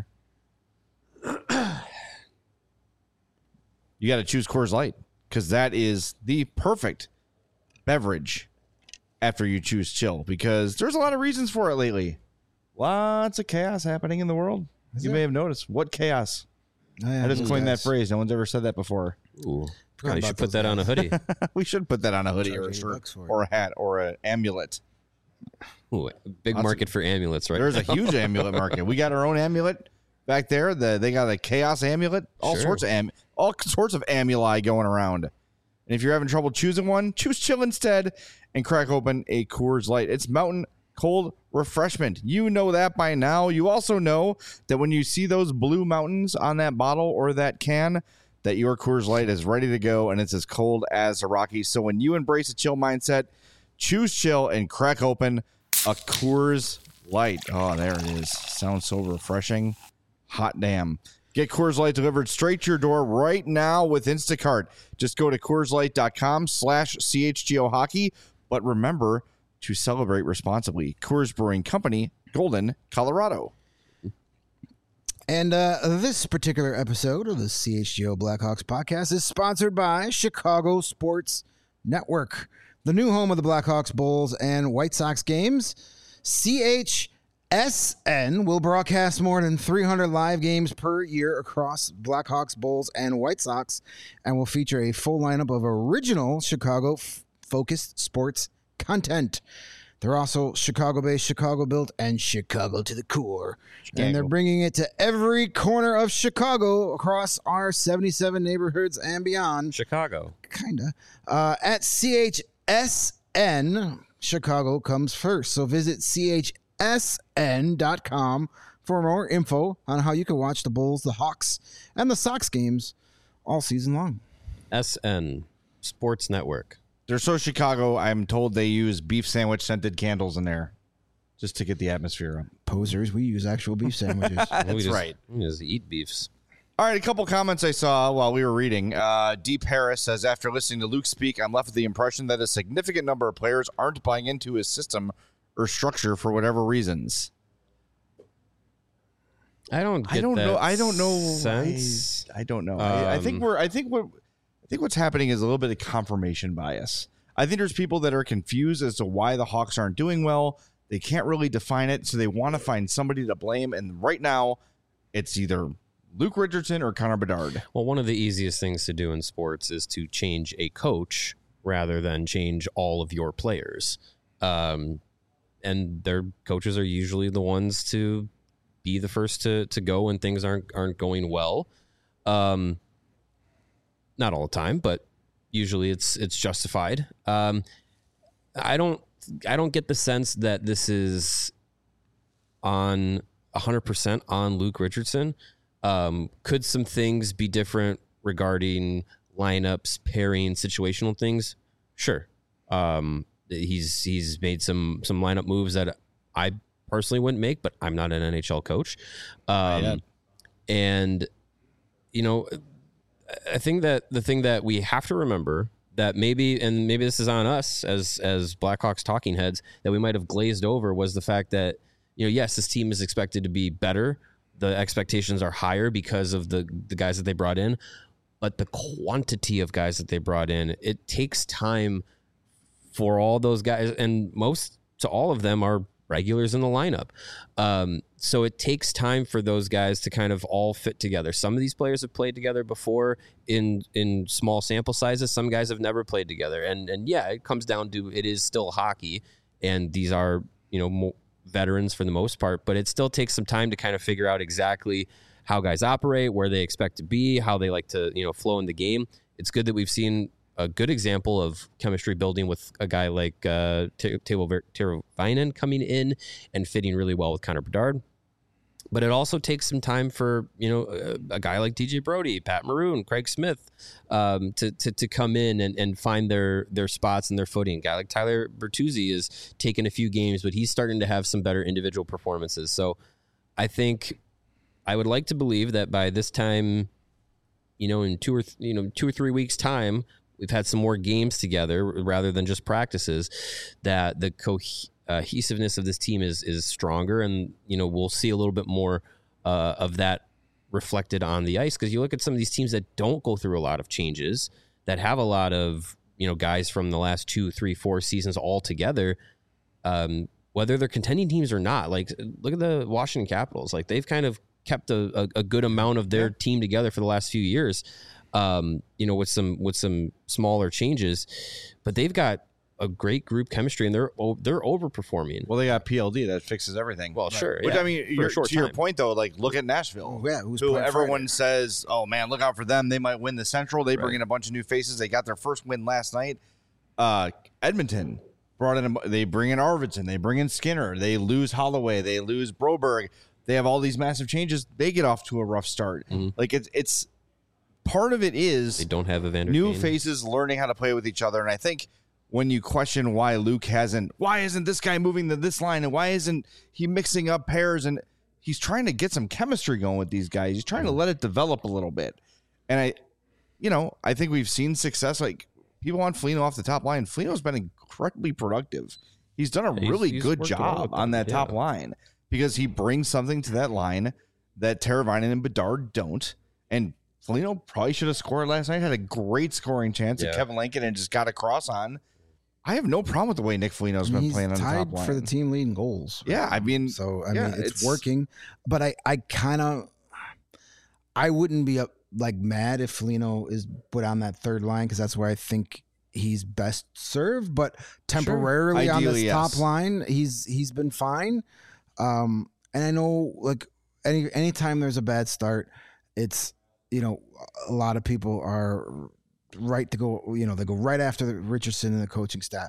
You got to choose Coors Light because that is the perfect beverage after you choose chill, because there's a lot of reasons for it lately. Lots of chaos happening in the world. You may have noticed. What chaos? I just coined that phrase. No one's ever said that before. Ooh. You should put that on a hoodie. We should put that on a hoodie or a shirt or a hat or an amulet. Ooh, big market for amulets, right? There's a huge amulet market. We got our own amulet back there. They got a chaos amulet. All sorts of amuli going around. And if you're having trouble choosing one, choose chill instead and crack open a Coors Light. It's mountain cold refreshment. You know that by now. You also know that when you see those blue mountains on that bottle or that can, that your Coors Light is ready to go and it's as cold as the Rockies. So when you embrace a chill mindset, choose chill and crack open a Coors Light. Oh, there it is. Sounds so refreshing. Hot damn. Get Coors Light delivered straight to your door right now with Instacart. Just go to CoorsLight.com/CHGO Hockey. But remember to celebrate responsibly. Coors Brewing Company, Golden, Colorado. And this particular episode of the CHGO Blackhawks podcast is sponsored by Chicago Sports Network, the new home of the Blackhawks Bulls and White Sox games. CHSN will broadcast more than 300 live games per year across Blackhawks, Bulls, and White Sox, and will feature a full lineup of original Chicago-focused sports content. They're also Chicago-based, Chicago-built, and Chicago to the core. And they're bringing it to every corner of Chicago across our 77 neighborhoods and beyond. Chicago. Kinda. At CHSN, Chicago comes first. So visit CHSN.com for more info on how you can watch the Bulls, the Hawks, and the Sox games all season long. SN, Sports Network. They're so Chicago, I'm told they use beef sandwich scented candles in there just to get the atmosphere up. Posers, we use actual beef sandwiches. That's right. We just eat beefs. All right, a couple comments I saw while we were reading. Deep Harris says, after listening to Luke speak, I'm left with the impression that a significant number of players aren't buying into his system or structure for whatever reasons. I don't know. I don't know. Sense. I don't know. I think what's happening is a little bit of confirmation bias. I think there's people that are confused as to why the Hawks aren't doing well. They can't really define it, so they want to find somebody to blame. And right now, it's either Luke Richardson or Connor Bedard. Well, one of the easiest things to do in sports is to change a coach rather than change all of your players. And their coaches are usually the ones to be the first to go when things aren't going well. Not all the time, but usually it's justified. I don't get the sense that this is on 100% on Luke Richardson. Could some things be different regarding lineups, pairing, situational things? Sure. He's made some lineup moves that I personally wouldn't make, but I'm not an NHL coach. And I think that the thing that we have to remember that maybe this is on us as Blackhawks talking heads, that we might have glazed over was the fact that, yes, this team is expected to be better. The expectations are higher because of the guys that they brought in, but the quantity of guys that they brought in, it takes time for all those guys, and most to all of them are regulars in the lineup. So it takes time for those guys to kind of all fit together. Some of these players have played together before in small sample sizes. Some guys have never played together. And yeah, it comes down to it is still hockey, and these are, veterans for the most part, but it still takes some time to kind of figure out exactly how guys operate, where they expect to be, how they like to, flow in the game. It's good that we've seen a good example of chemistry building with a guy like Teuvo Teravainen coming in and fitting really well with Connor Bedard. But it also takes some time for, a guy like DJ Brody, Pat Maroon, Craig Smith to come in and find their spots and their footing. A guy like Tyler Bertuzzi is taking a few games, but he's starting to have some better individual performances. So I think I would like to believe that by this time, in 2 or 3 weeks' time, we've had some more games together rather than just practices, that the cohesiveness of this team is stronger, and we'll see a little bit more of that reflected on the ice, because you look at some of these teams that don't go through a lot of changes, that have a lot of guys from the last 2, 3, 4 seasons all together, whether they're contending teams or not. Like, look at the Washington Capitals. Like, they've kind of kept a good amount of their team together for the last few years, with some smaller changes, but they've got a great group chemistry, and they're overperforming. Well, they got PLD that fixes everything. Well, sure. Which, yeah, I mean, your point though, like, look at Nashville. Yeah, who everyone says, oh man, look out for them. They might win the Central. They bring in a bunch of new faces. They got their first win last night. Edmonton they bring in Arvidsson. They bring in Skinner. They lose Holloway. They lose Broberg. They have all these massive changes. They get off to a rough start. Mm-hmm. Like, it's part of it is they don't have Evander new Kane. faces learning how to play with each other. And I think when you question why isn't this guy moving to this line, and why isn't he mixing up pairs, and he's trying to get some chemistry going with these guys. He's trying to let it develop a little bit. And I think we've seen success. Like, people want Foligno off the top line. Foligno's been incredibly productive. He's done a really good job on that top line, because he brings something to that line that Teravainen and Bedard don't. And Foligno probably should have scored last night. Had a great scoring chance at Kevin Lankin and just got a cross on. I have no problem with the way Nick Foligno's been playing on the top line. For the team leading goals. Right? Yeah, I mean, it's working. But I wouldn't be mad if Foligno is put on that third line, because that's where I think he's best served. But temporarily on this top line, he's been fine. And I know, like, anytime there's a bad start, it's, a lot of people are right to go, they go right after Richardson and the coaching staff.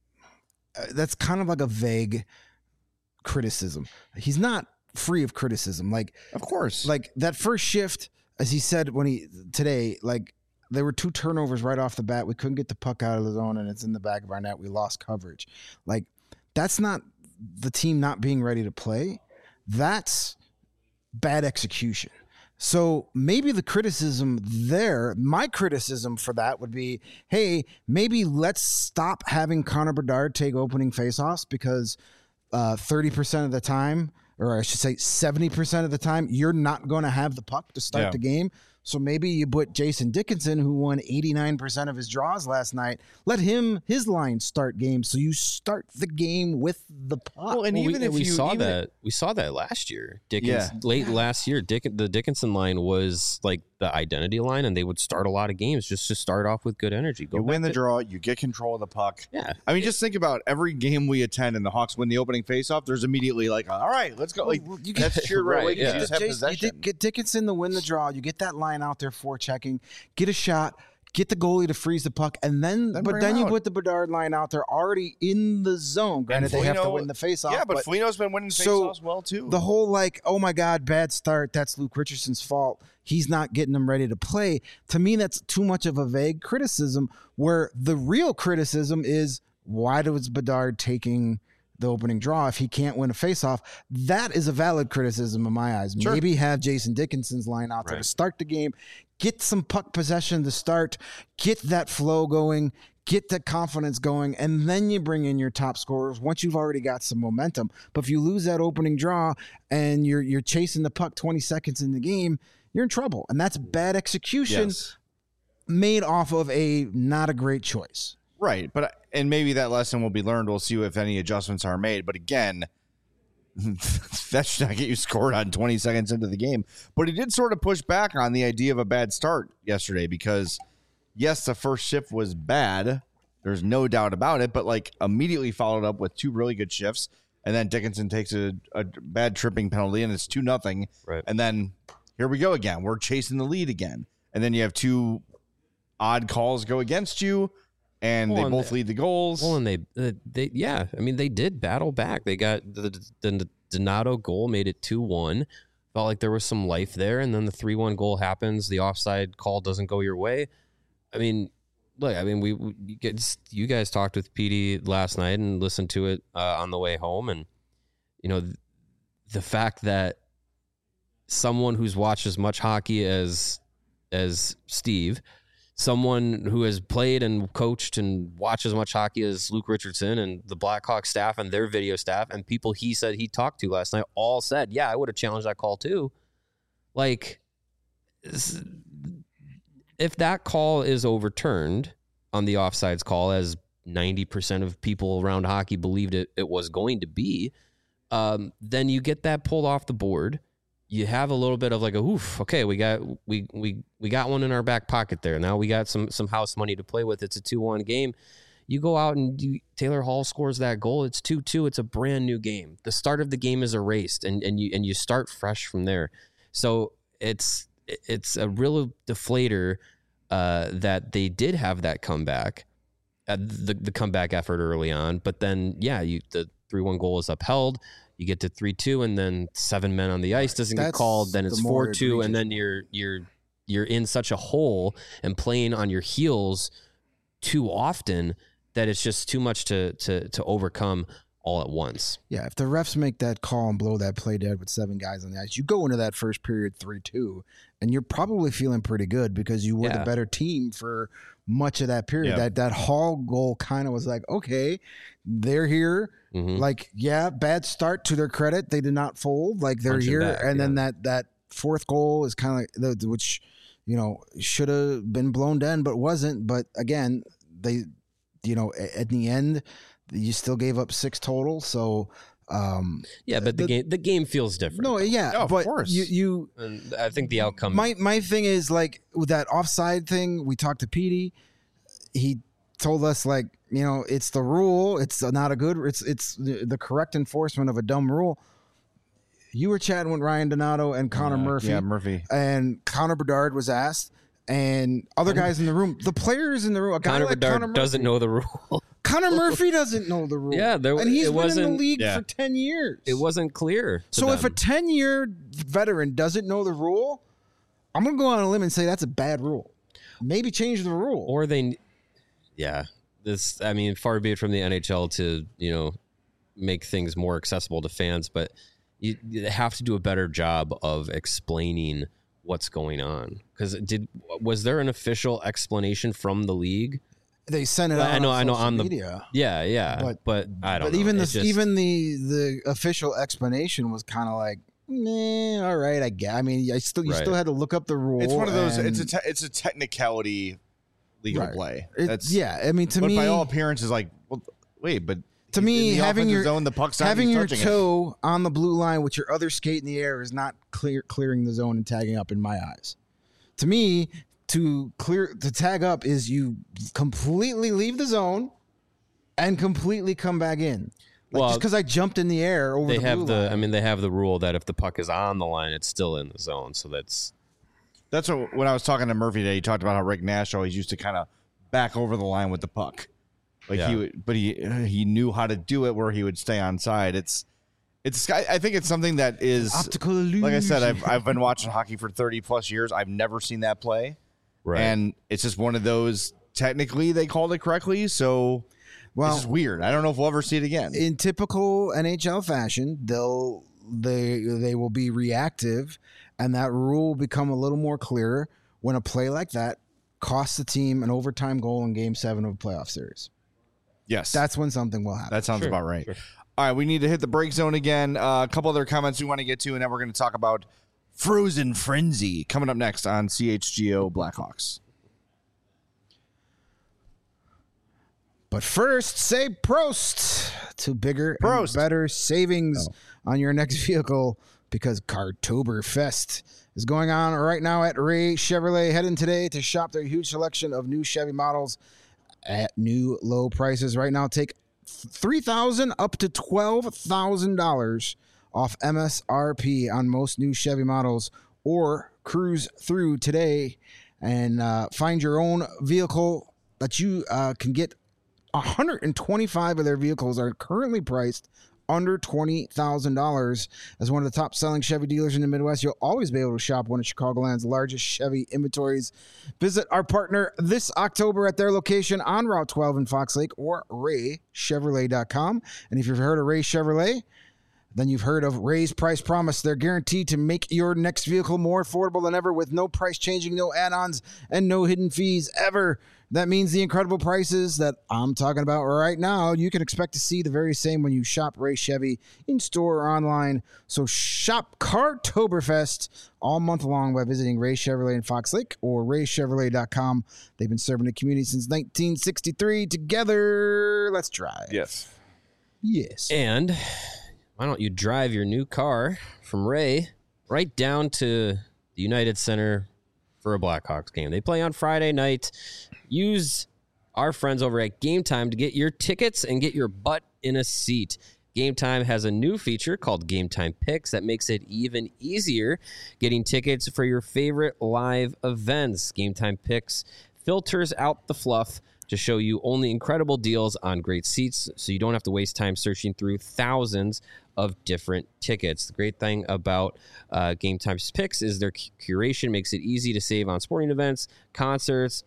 That's kind of like a vague criticism. He's not free of criticism. Like, of course, like that first shift, as he said today, like, there were 2 turnovers right off the bat. We couldn't get the puck out of the zone, and it's in the back of our net. We lost coverage. Like, that's not the team not being ready to play. That's bad execution. So maybe the criticism there, my criticism for that would be, hey, maybe let's stop having Connor Bedard take opening faceoffs, because 30% of the time, or I should say 70% of the time, you're not going to have the puck to start the game. So maybe you put Jason Dickinson, who won 89% of his draws last night, let his line start games. So you start the game with the puck. Well, and we saw that last year. Late last year, the Dickinson line was like the identity line, and they would start a lot of games just to start off with good energy. You win the draw, you get control of the puck. Yeah. I mean, just think about every game we attend and the Hawks win the opening faceoff, there's immediately like, all right, let's go. Like, that's cheered right away. You just have possession. You get Dickinson to win the draw. You get that line out there for checking, get a shot, get the goalie to freeze the puck, and then you put the Bedard line out there already in the zone. Granted, they have to win the faceoff. Yeah, but Foligno's been winning faceoffs well too. The whole oh my God, bad start, that's Luke Richardson's fault. He's not getting them ready to play. To me, that's too much of a vague criticism, where the real criticism is, why was Bedard taking the opening draw if he can't win a faceoff? That is a valid criticism in my eyes. Sure. Maybe have Jason Dickinson's line out there to start the game, get some puck possession to start, get that flow going, get that confidence going, and then you bring in your top scorers once you've already got some momentum. But if you lose that opening draw and you're chasing the puck 20 seconds in the game, you're in trouble. And that's bad execution made off of not a great choice. Right, and maybe that lesson will be learned. We'll see if any adjustments are made. But again, that should not get you scored on 20 seconds into the game. But he did sort of push back on the idea of a bad start yesterday because, yes, the first shift was bad. There's no doubt about it. But, like, immediately followed up with 2 really good shifts. And then Dickinson takes a bad tripping penalty, and it's 2-0. Right. And then here we go again. We're chasing the lead again. And then you have 2 odd calls go against you. And they both lead the goals. Well, and they yeah. I mean, they did battle back. They got the Donato goal, made it 2-1. Felt like there was some life there, and then the 3-1 goal happens. The offside call doesn't go your way. I mean, look. I mean, you guys talked with PD last night and listened to it on the way home, and you know, the fact that someone who's watched as much hockey as Steve. Someone who has played and coached and watched as much hockey as Luke Richardson and the Blackhawks staff and their video staff and people he said he talked to last night all said, yeah, I would have challenged that call too. Like, if that call is overturned on the offsides call, as 90% of people around hockey believed it was going to be, then you get that pulled off the board. You have a little bit of like a oof. Okay, we got one in our back pocket there. Now we got some house money to play with. It's a 2-1 game. You go out and Taylor Hall scores that goal. It's 2-2. It's a brand new game. The start of the game is erased, and you start fresh from there. So it's a real deflator that they did have that comeback, the comeback effort early on. But then the 3-1 goal is upheld. You get to 3-2, and then 7 men on the ice doesn't get called. Then it's 4-2, and then you're in such a hole and playing on your heels too often that it's just too much to overcome all at once. Yeah, if the refs make that call and blow that play dead with 7 guys on the ice, you go into that first period 3-2, and you're probably feeling pretty good because you were the better team for much of that period. Yep. That Hall goal kind of was like, okay, they're here. Mm-hmm. Like, yeah, bad start to their credit. They did not fold. Like, they're Punching here. back, and then that 4th goal is kind of which, you know, should have been blown down, but wasn't. But again, they, you know, at the end, you still gave up 6 total. So, but the game feels different. No, yeah, of but course. you And I think the outcome. My thing is, like, with that offside thing, we talked to Petey. He told us, like, you know, it's the rule. It's not a good. It's the correct enforcement of a dumb rule. You were chatting with Ryan Donato and Connor Murphy. Yeah, Murphy. And Connor Bedard was asked, and other guys in the room. The players in the room. A guy Connor like Bedard Connor Murphy doesn't know the rule. Connor Murphy doesn't know the rule. Yeah, and he's it been in the wasn't- league yeah. for 10 years. It wasn't clear. to So if a them. 10-year veteran doesn't know the rule, I'm going to go on a limb and say that's a bad rule. Maybe change the rule. or they, this. I mean, far be it from the NHL to make things more accessible to fans, but you have to do a better job of explaining what's going on. Because was there an official explanation from the league? They sent it out I know on social on the media. Yeah, but I don't But know. even It's just- even the official explanation was kind of like, all right, I get. I mean, you still had to look up the rule. It's one of those. and- It's a technicality legal Right. play. I mean, to but me, by all appearances, like, well, wait, but to in me, the having offensive your zone, the puck's not having even your touching it. toe on the blue line with your other skate in the air is not clearing the zone and tagging up in my eyes. To me, to tag up is you completely leave the zone and completely come back in. Like, Well, just because I jumped in the air over they the have blue the. line. I mean, they have the rule that if the puck is on the line, it's still in the zone. So that's That's when I was talking to Murphy today. He talked about how Rick Nash always used to kind of back over the line with the puck, like Yeah. he would, but he knew how to do it where he would stay on side. I think it's something that is optical illusion. like I said. I've been watching hockey for 30+ years. I've never seen that play, right. and it's just one of those. Technically, they called it correctly, so it's just weird. I don't know if we'll ever see it again. in typical NHL fashion, they will be reactive, and that rule will become a little more clearer when a play like that costs the team an overtime goal in Game 7 of a playoff series. Yes, That's when something will happen. that sounds Sure, about right. sure. All right, we need to hit the break zone again. A couple other comments we want to get to, and then we're going to talk about Frozen Frenzy coming up next on CHGO Blackhawks. But first, say Prost to bigger and Prost. better savings on your next vehicle because Cartoberfest is going on right now at Ray Chevrolet. Head in today to shop their huge selection of new Chevy models at new low prices. Right now, take $3,000 up to $12,000 off MSRP on most new Chevy models, or cruise through today and find your own vehicle that you can get. 125 of their vehicles are currently priced under $20,000. As one of the top selling Chevy dealers in the Midwest, you'll always be able to shop one of Chicagoland's largest Chevy inventories. Visit our partner this October at their location on Route 12 in Fox Lake or RayChevrolet.com. And if you've heard of Ray Chevrolet, then you've heard of Ray's Price Promise. They're guaranteed to make your next vehicle more affordable than ever with no price changing, no add-ons, and no hidden fees ever. That means the incredible prices that I'm talking about right now, you can expect to see the very same when you shop Ray Chevy in store or online. So shop Cartoberfest all month long by visiting Ray Chevrolet in Fox Lake or RayChevrolet.com. They've been serving the community since 1963. Together, let's drive. Yes. Yes. And why don't you drive your new car from Ray right down to the United Center for a Blackhawks game? They play on Friday night. Use our friends over at Game Time to get your tickets and get your butt in a seat. Game Time has a new feature called Game Time Picks that makes it even easier getting tickets for your favorite live events. Game Time Picks filters out the fluff to show you only incredible deals on great seats, so you don't have to waste time searching through thousands of different tickets. The great thing about Game Time's Picks is their curation makes it easy to save on sporting events, concerts,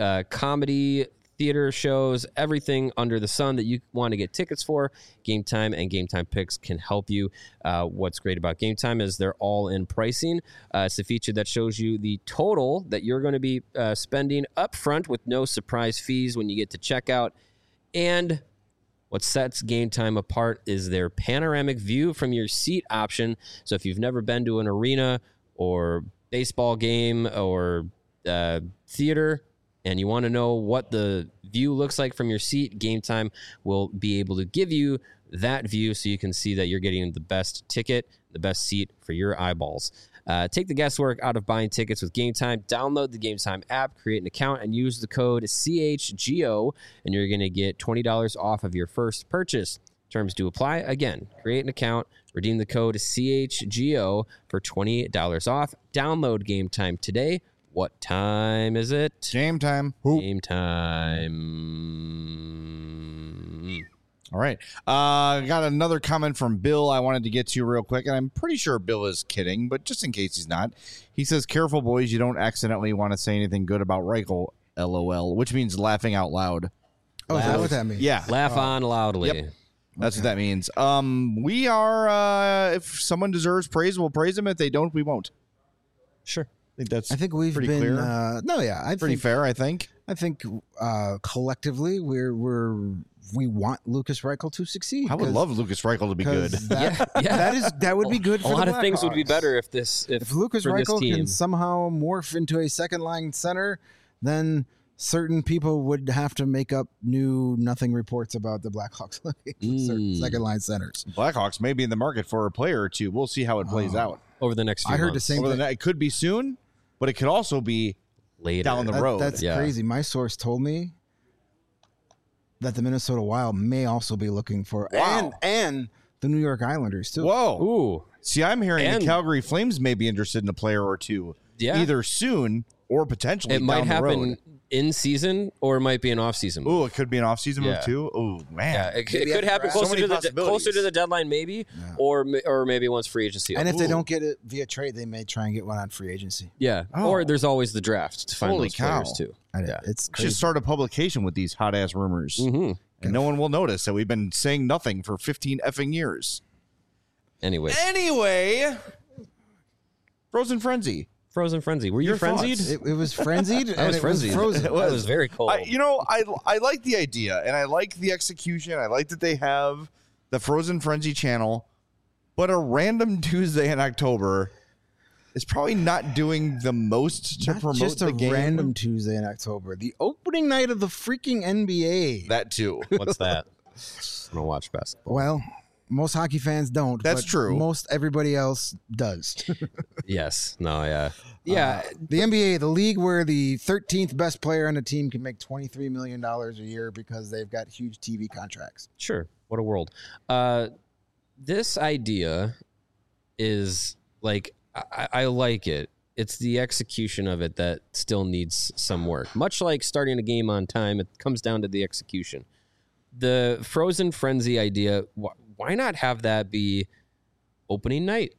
comedy, theater shows, everything under the sun that you want to get tickets for. Game Time and Game Time Picks can help you. What's great about Game Time is they're all in pricing. It's a feature that shows you the total that you're going to be spending up front with no surprise fees when you get to checkout. And what sets Game Time apart is their panoramic view from your seat option. So if you've never been to an arena or baseball game or theater, and you want to know what the view looks like from your seat, Game Time will be able to give you that view so you can see that you're getting the best ticket, the best seat for your eyeballs. Take the guesswork out of buying tickets with Game Time. Download the Game Time app, create an account, and use the code CHGO, and you're going to get $20 off of your first purchase. Terms do apply. Again, create an account, redeem the code CHGO for $20 off. Download Game Time today. What time is it? Game time. Game time. All right. Got another comment from Bill I wanted to get to real quick, and I'm pretty sure Bill is kidding, but just in case he's not, he says, "Careful, boys, you don't accidentally want to say anything good about Reichel, LOL," which means laughing out loud. Oh, is that what that means? Yeah. Laugh on loudly. Yep. That's what that means. We are, if someone deserves praise, we'll praise them. If they don't, we won't. Sure. I think we've pretty been clear. I pretty fair. I think collectively we want Lucas Reichel to succeed. I would love Lucas Reichel to be good. That would be good. For a lot the of things would be Blackhawks. better if Lucas Reichel team can somehow morph into a second line center, then certain people would have to make up new nothing reports about the Blackhawks looking for second line centers. Blackhawks may be in the market for a player or two. We'll see how it plays out over the next few I heard months. the same thing. It could be soon, but it could also be later down the road. That's crazy. My source told me that the Minnesota Wild may also be looking for and the New York Islanders too. Whoa. Ooh. See, I'm hearing the Calgary Flames may be interested in a player or two. Yeah. Either soon or potentially It might down the happen road. in season or it might be an off season. Ooh, it could be an off-season move Yeah. too. Oh man. Yeah, it could happen closer to the deadline, maybe, or maybe once free agency. And if they don't get it via trade, they may try and get one on free agency. Yeah, or there's always the draft to find Holy those cow. players too. It's We should start a publication with these hot ass rumors, and no one will notice that we've been saying nothing for 15 effing years. Anyway, Frozen Frenzy. Frozen Frenzy. Were you Your frenzied? thoughts? It was frenzied. I was frenzied. Frozen. It was very cold. I like the idea, and I like the execution. I like that they have the Frozen Frenzy channel, but a random Tuesday in October is probably not doing the most to promote Just the a game. random Tuesday in October, the opening night of the freaking NBA. That too. What's that? I don't watch basketball. Well, Most hockey fans don't. That's but true. Most everybody else does. Yes. No. Yeah. Yeah. The NBA, the league where the 13th best player on the team can make $23 million a year because they've got huge TV contracts. Sure. What a world. This idea is like, I like it. It's the execution of it that still needs some work. Much like starting a game on time, it comes down to the execution. The Frozen Frenzy idea, why not have that be opening night?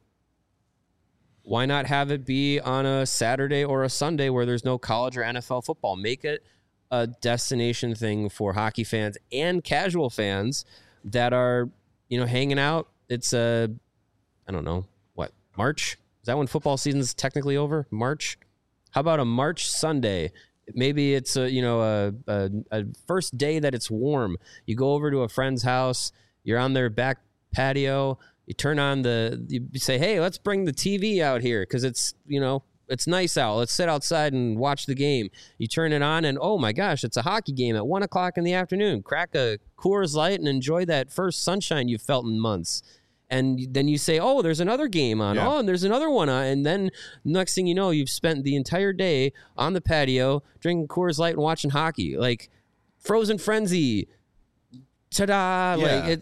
Why not have it be on a Saturday or a Sunday where there's no college or NFL football? Make it a destination thing for hockey fans and casual fans that are, hanging out. It's I don't know, what, March? Is that when football season's technically over? March? How about a March Sunday? Maybe it's a first day that it's warm. You go over to a friend's house. You're on their back patio. You turn on you say, hey, let's bring the TV out here because it's nice out. Let's sit outside and watch the game. You turn it on and, oh my gosh, it's a hockey game at 1:00 in the afternoon. Crack a Coors Light and enjoy that first sunshine you've felt in months. And then you say, oh, there's another game on. Yeah. Oh, and there's another one on. And then next thing you know, you've spent the entire day on the patio drinking Coors Light and watching hockey. Like Frozen Frenzy. Ta-da. Yeah.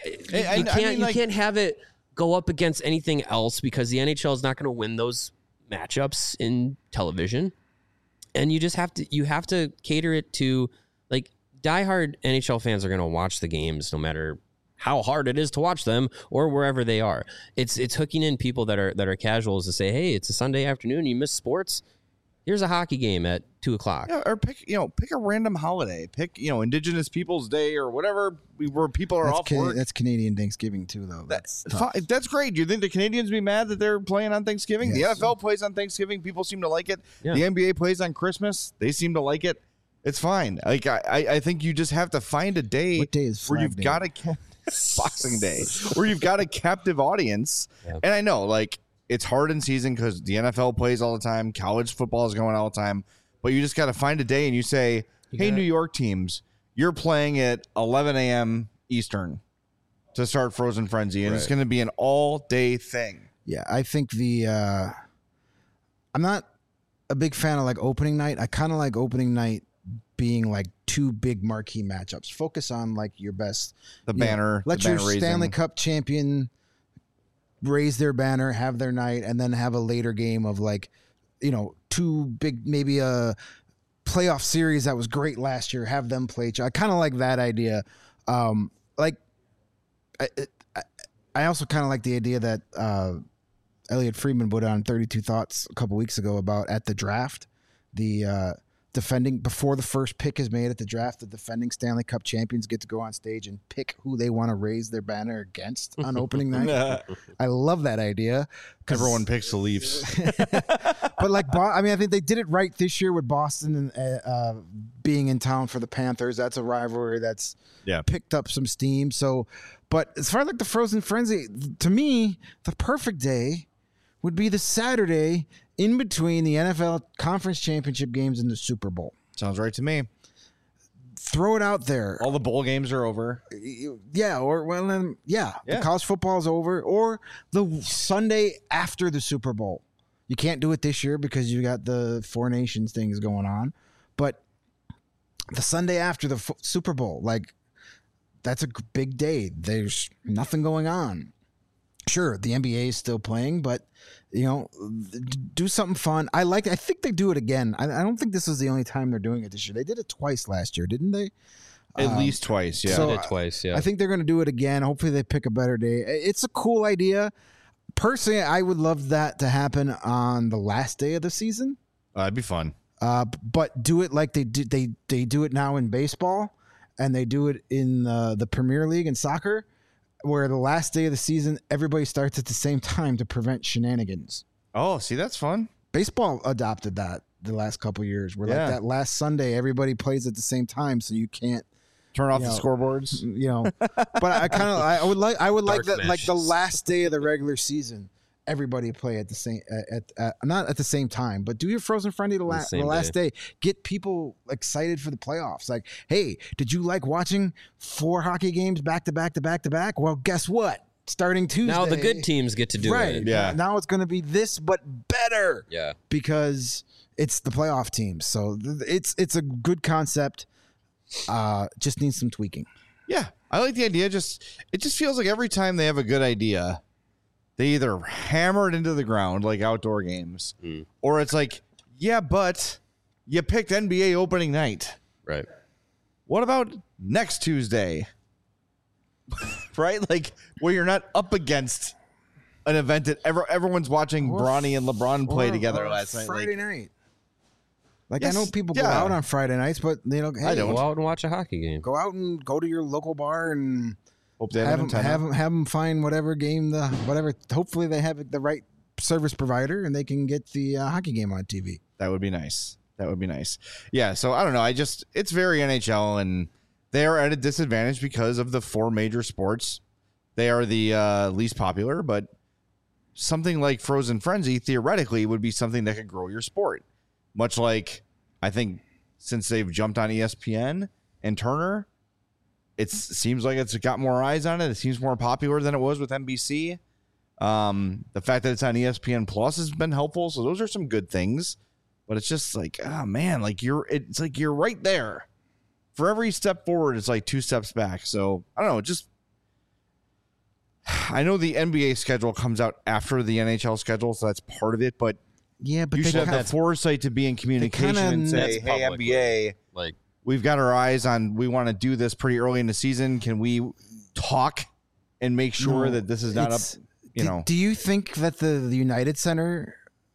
You can't have it go up against anything else because the NHL is not going to win those matchups in television. And you have to cater it to, like, diehard NHL fans are going to watch the games no matter how hard it is to watch them or wherever they are. It's hooking in people that are casuals to say, hey, it's a Sunday afternoon. You miss sports. Here's a hockey game at 2:00. Yeah, or pick a random holiday. Pick Indigenous Peoples Day or whatever where people are off work. That's Canadian Thanksgiving too, though. That's great. Do you think the Canadians be mad that they're playing on Thanksgiving? Yes. The NFL plays on Thanksgiving. People seem to like it. Yeah. The NBA plays on Christmas. They seem to like it. It's fine. Like I think you just have to find a day. What day is where you've got to Boxing Day, where you've got a captive audience. Yeah. And I know, like, it's hard in season because the NFL plays all the time. College football is going all the time. But you just got to find a day and you say, hey, New York teams, you're playing at 11 a.m. Eastern to start Frozen Frenzy. And It's going to be an all-day thing. Yeah, I think I'm not a big fan of, like, opening night. I kind of like opening night being like two big marquee matchups. Focus on like your best. The banner. Let your Stanley Cup champion raise their banner, have their night, and then have a later game of like, two big, maybe a playoff series that was great last year. Have them play. I kind of like that idea. I also kind of like the idea that Elliot Friedman put on 32 Thoughts a couple weeks ago about at the draft, defending before the first pick is made at the draft, the defending Stanley Cup champions get to go on stage and pick who they want to raise their banner against on opening night. I love that idea. Everyone picks the Leafs. But like, I think they did it right this year with Boston and being in town for the Panthers. That's a rivalry that's picked up some steam. So, but as far as like the Frozen Frenzy, to me, the perfect day would be the Saturday in between the NFL Conference Championship games and the Super Bowl. Sounds right to me. Throw it out there. All the bowl games are over. Yeah, the college football is over. Or the Sunday after the Super Bowl. You can't do it this year because you got the Four Nations things going on. But the Sunday after the Super Bowl, like, that's a big day. There's nothing going on. Sure, the NBA is still playing, but do something fun. I think they do it again. I don't think this is the only time they're doing it this year. They did it twice last year, didn't they? At least twice, yeah. So they did twice, yeah. I think they're going to do it again. Hopefully they pick a better day. It's a cool idea. Personally, I would love that to happen on the last day of the season. That'd be fun. But do it like they do it now in baseball, and they do it in the Premier League in soccer, where the last day of the season, everybody starts at the same time to prevent shenanigans. Oh, see, that's fun. Baseball adopted that the last couple of years, where like that last Sunday, everybody plays at the same time, so you can't turn off the scoreboards. But I would like that, like the last day of the regular season, everybody play at the same not at the same time, but do your Frozen Friday the same last day. Get people excited for the playoffs. Like, hey, did you like watching 4 hockey games back to back to back to back? Well, guess what? Starting Tuesday, Now the good teams get to do it. Yeah. Now it's going to be this, but better. Yeah. Because it's the playoff teams. So it's a good concept. Just needs some tweaking. Yeah, I like the idea. It just feels like every time they have a good idea, they either hammer it into the ground like outdoor games, or it's like, yeah, but you picked NBA opening night. Right. What about next Tuesday? Right? Like where you're not up against an event that everyone's watching Bronny and LeBron play together last night. Friday like, night. Like, Yes, I know people go yeah. out on Friday nights, but hey, I don't. Go out and watch a hockey game. go out and go to your local bar and Hope they have an them, antenna. have them find whatever game whatever. Hopefully they have the right service provider and they can get the hockey game on TV. That would be nice. That would be nice. Yeah, so I don't know. It's very NHL, and they are at a disadvantage because of the 4 major sports. They are the least popular, but something like Frozen Frenzy theoretically would be something that could grow your sport. Much like, I think, since they've jumped on ESPN and Turner, it seems like it's got more eyes on it. It seems more popular than it was with NBC. The fact that it's on ESPN Plus has been helpful. So those are some good things. But it's just like, oh man, it's like you're right there. For every step forward, it's like 2 steps back. So I don't know. I know the NBA schedule comes out after the NHL schedule, so that's part of it. But Yeah, but you they should have kinda- the foresight to be in communication kinda- and say, That's hey, public, NBA, Like, we've got our eyes on, we want to do this pretty early in the season. Can we talk and make sure No, that this is not up, it's- you know? Do you think that the United Center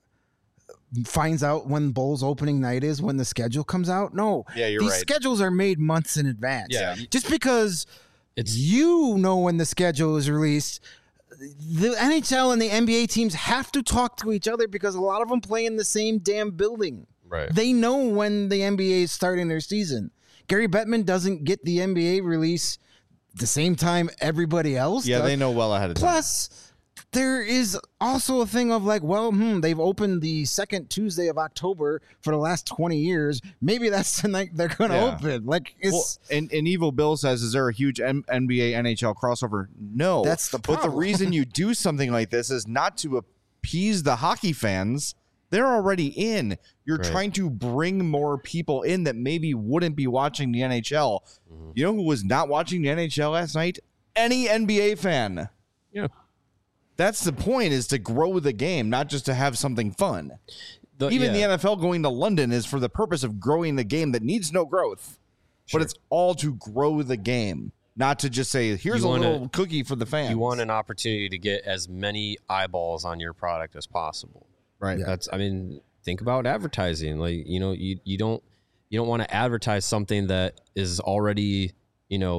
finds out when Bulls opening night is when the schedule comes out? No. Yeah, you're These right. schedules are made months in advance. Yeah. Just because It's- you know when the schedule is released, the NHL and the NBA teams have to talk to each other because a lot of them play in the same damn building. right. They know when the NBA is starting their season. Gary Bettman doesn't get the NBA release the same time everybody else Yeah, does. they know well ahead of time. Plus, there is also a thing of like, well, they've opened the second Tuesday of October for the last 20 years. Maybe that's the night they're going to Yeah. open. Like, it's Well, and Evil Bill says, is there a huge NBA NHL crossover? No. That's the But the problem. reason you do something like this is not to appease the hockey fans. They're already in. You're Right. trying to bring more people in that maybe wouldn't be watching the NHL. You know who was not watching the NHL last night? Any NBA fan. Yeah. That's the point, is to grow the game, not just to have something fun. Even the NFL going to London is for the purpose of growing the game that needs no growth. Sure. But it's all to grow the game, not to just say, here's You a wanna- little cookie for the fans. You want an opportunity to get as many eyeballs on your product as possible. Right. That's, I mean, think about advertising. Like, you know, you don't want to advertise something that is already, you know,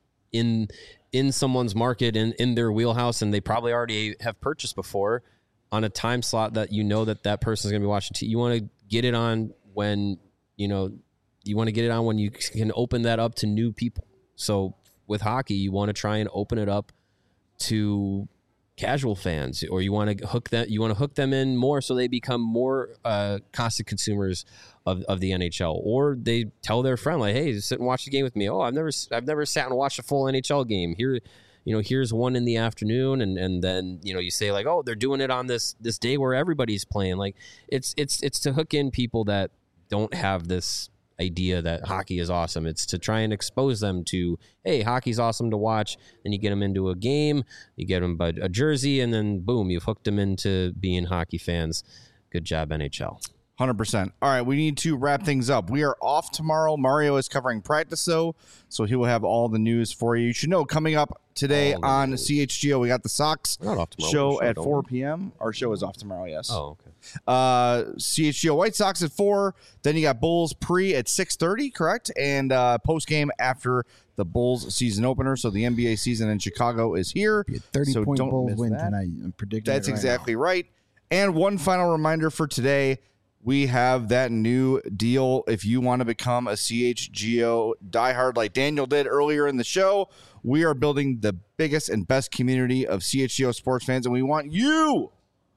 in someone's market, in their wheelhouse, and they probably already have purchased before on a time slot that you know that person's going to be watching. You want to get it on when, you know, you want to get it on when you can open that up to new people. So with hockey, you want to try and open it up to casual fans, or you want to hook them in more so they become more constant consumers of the NHL, or they tell their friend, like, hey, sit and watch the game with me. Oh, I've never sat and watched a full NHL game. Here, you know, here's one in the afternoon, and then, you know, you say like, oh, they're doing it on this day where everybody's playing. Like, it's to hook in people that don't have this idea that hockey is awesome. It's to try and expose them to, hey, hockey's awesome to watch. Then you get them into a game, you get them a jersey, and then boom, you've hooked them into being hockey fans. Good job, NHL. 100%. All right, we need to wrap things up. We are off tomorrow. Mario is covering practice, so he will have all the news for you. You should know, coming up today on CHGO, we got the Sox We're not off tomorrow. show We're at don't 4 we? p.m. Our show is off tomorrow, yes. Oh, okay. CHGO White Sox at 4. Then you got Bulls pre at 6:30, correct? And post-game after the Bulls season opener. So the NBA season in Chicago is here. 30-point don't Bulls miss win that. tonight. I'm predicting That's it right exactly right. And one final reminder for today, we have that new deal. If you want to become a CHGO diehard like Daniel did earlier in the show, we are building the biggest and best community of CHGO sports fans, and we want you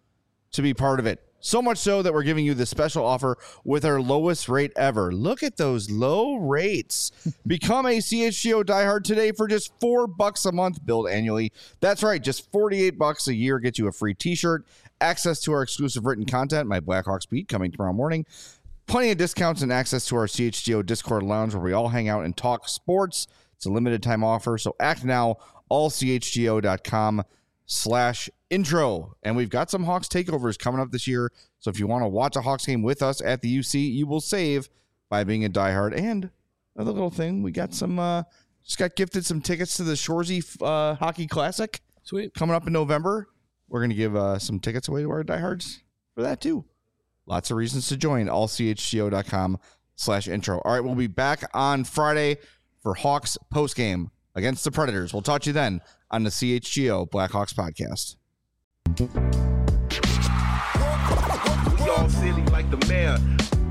to be part of it. So much so that we're giving you this special offer with our lowest rate ever. Look at those low rates. Become a CHGO diehard today for just $4 a month, billed annually. That's right, just $48 a year gets you a free t-shirt, access to our exclusive written content, my Blackhawks beat coming tomorrow morning, plenty of discounts and access to our CHGO Discord lounge where we all hang out and talk sports. It's a limited time offer, so act now, allchgo.com/intro. And we've got some Hawks takeovers coming up this year. So if you want to watch a Hawks game with us at the UC, you will save by being a diehard. And another little thing, we got just got gifted some tickets to the Shoresy Hockey Classic. Sweet. Coming up in November. We're going to give some tickets away to our diehards for that too. Lots of reasons to join. allchgo.com/intro. All right, we'll be back on Friday for Hawks postgame against the Predators. We'll talk to you then on the CHGO Blackhawks podcast. We all silly like the mayor.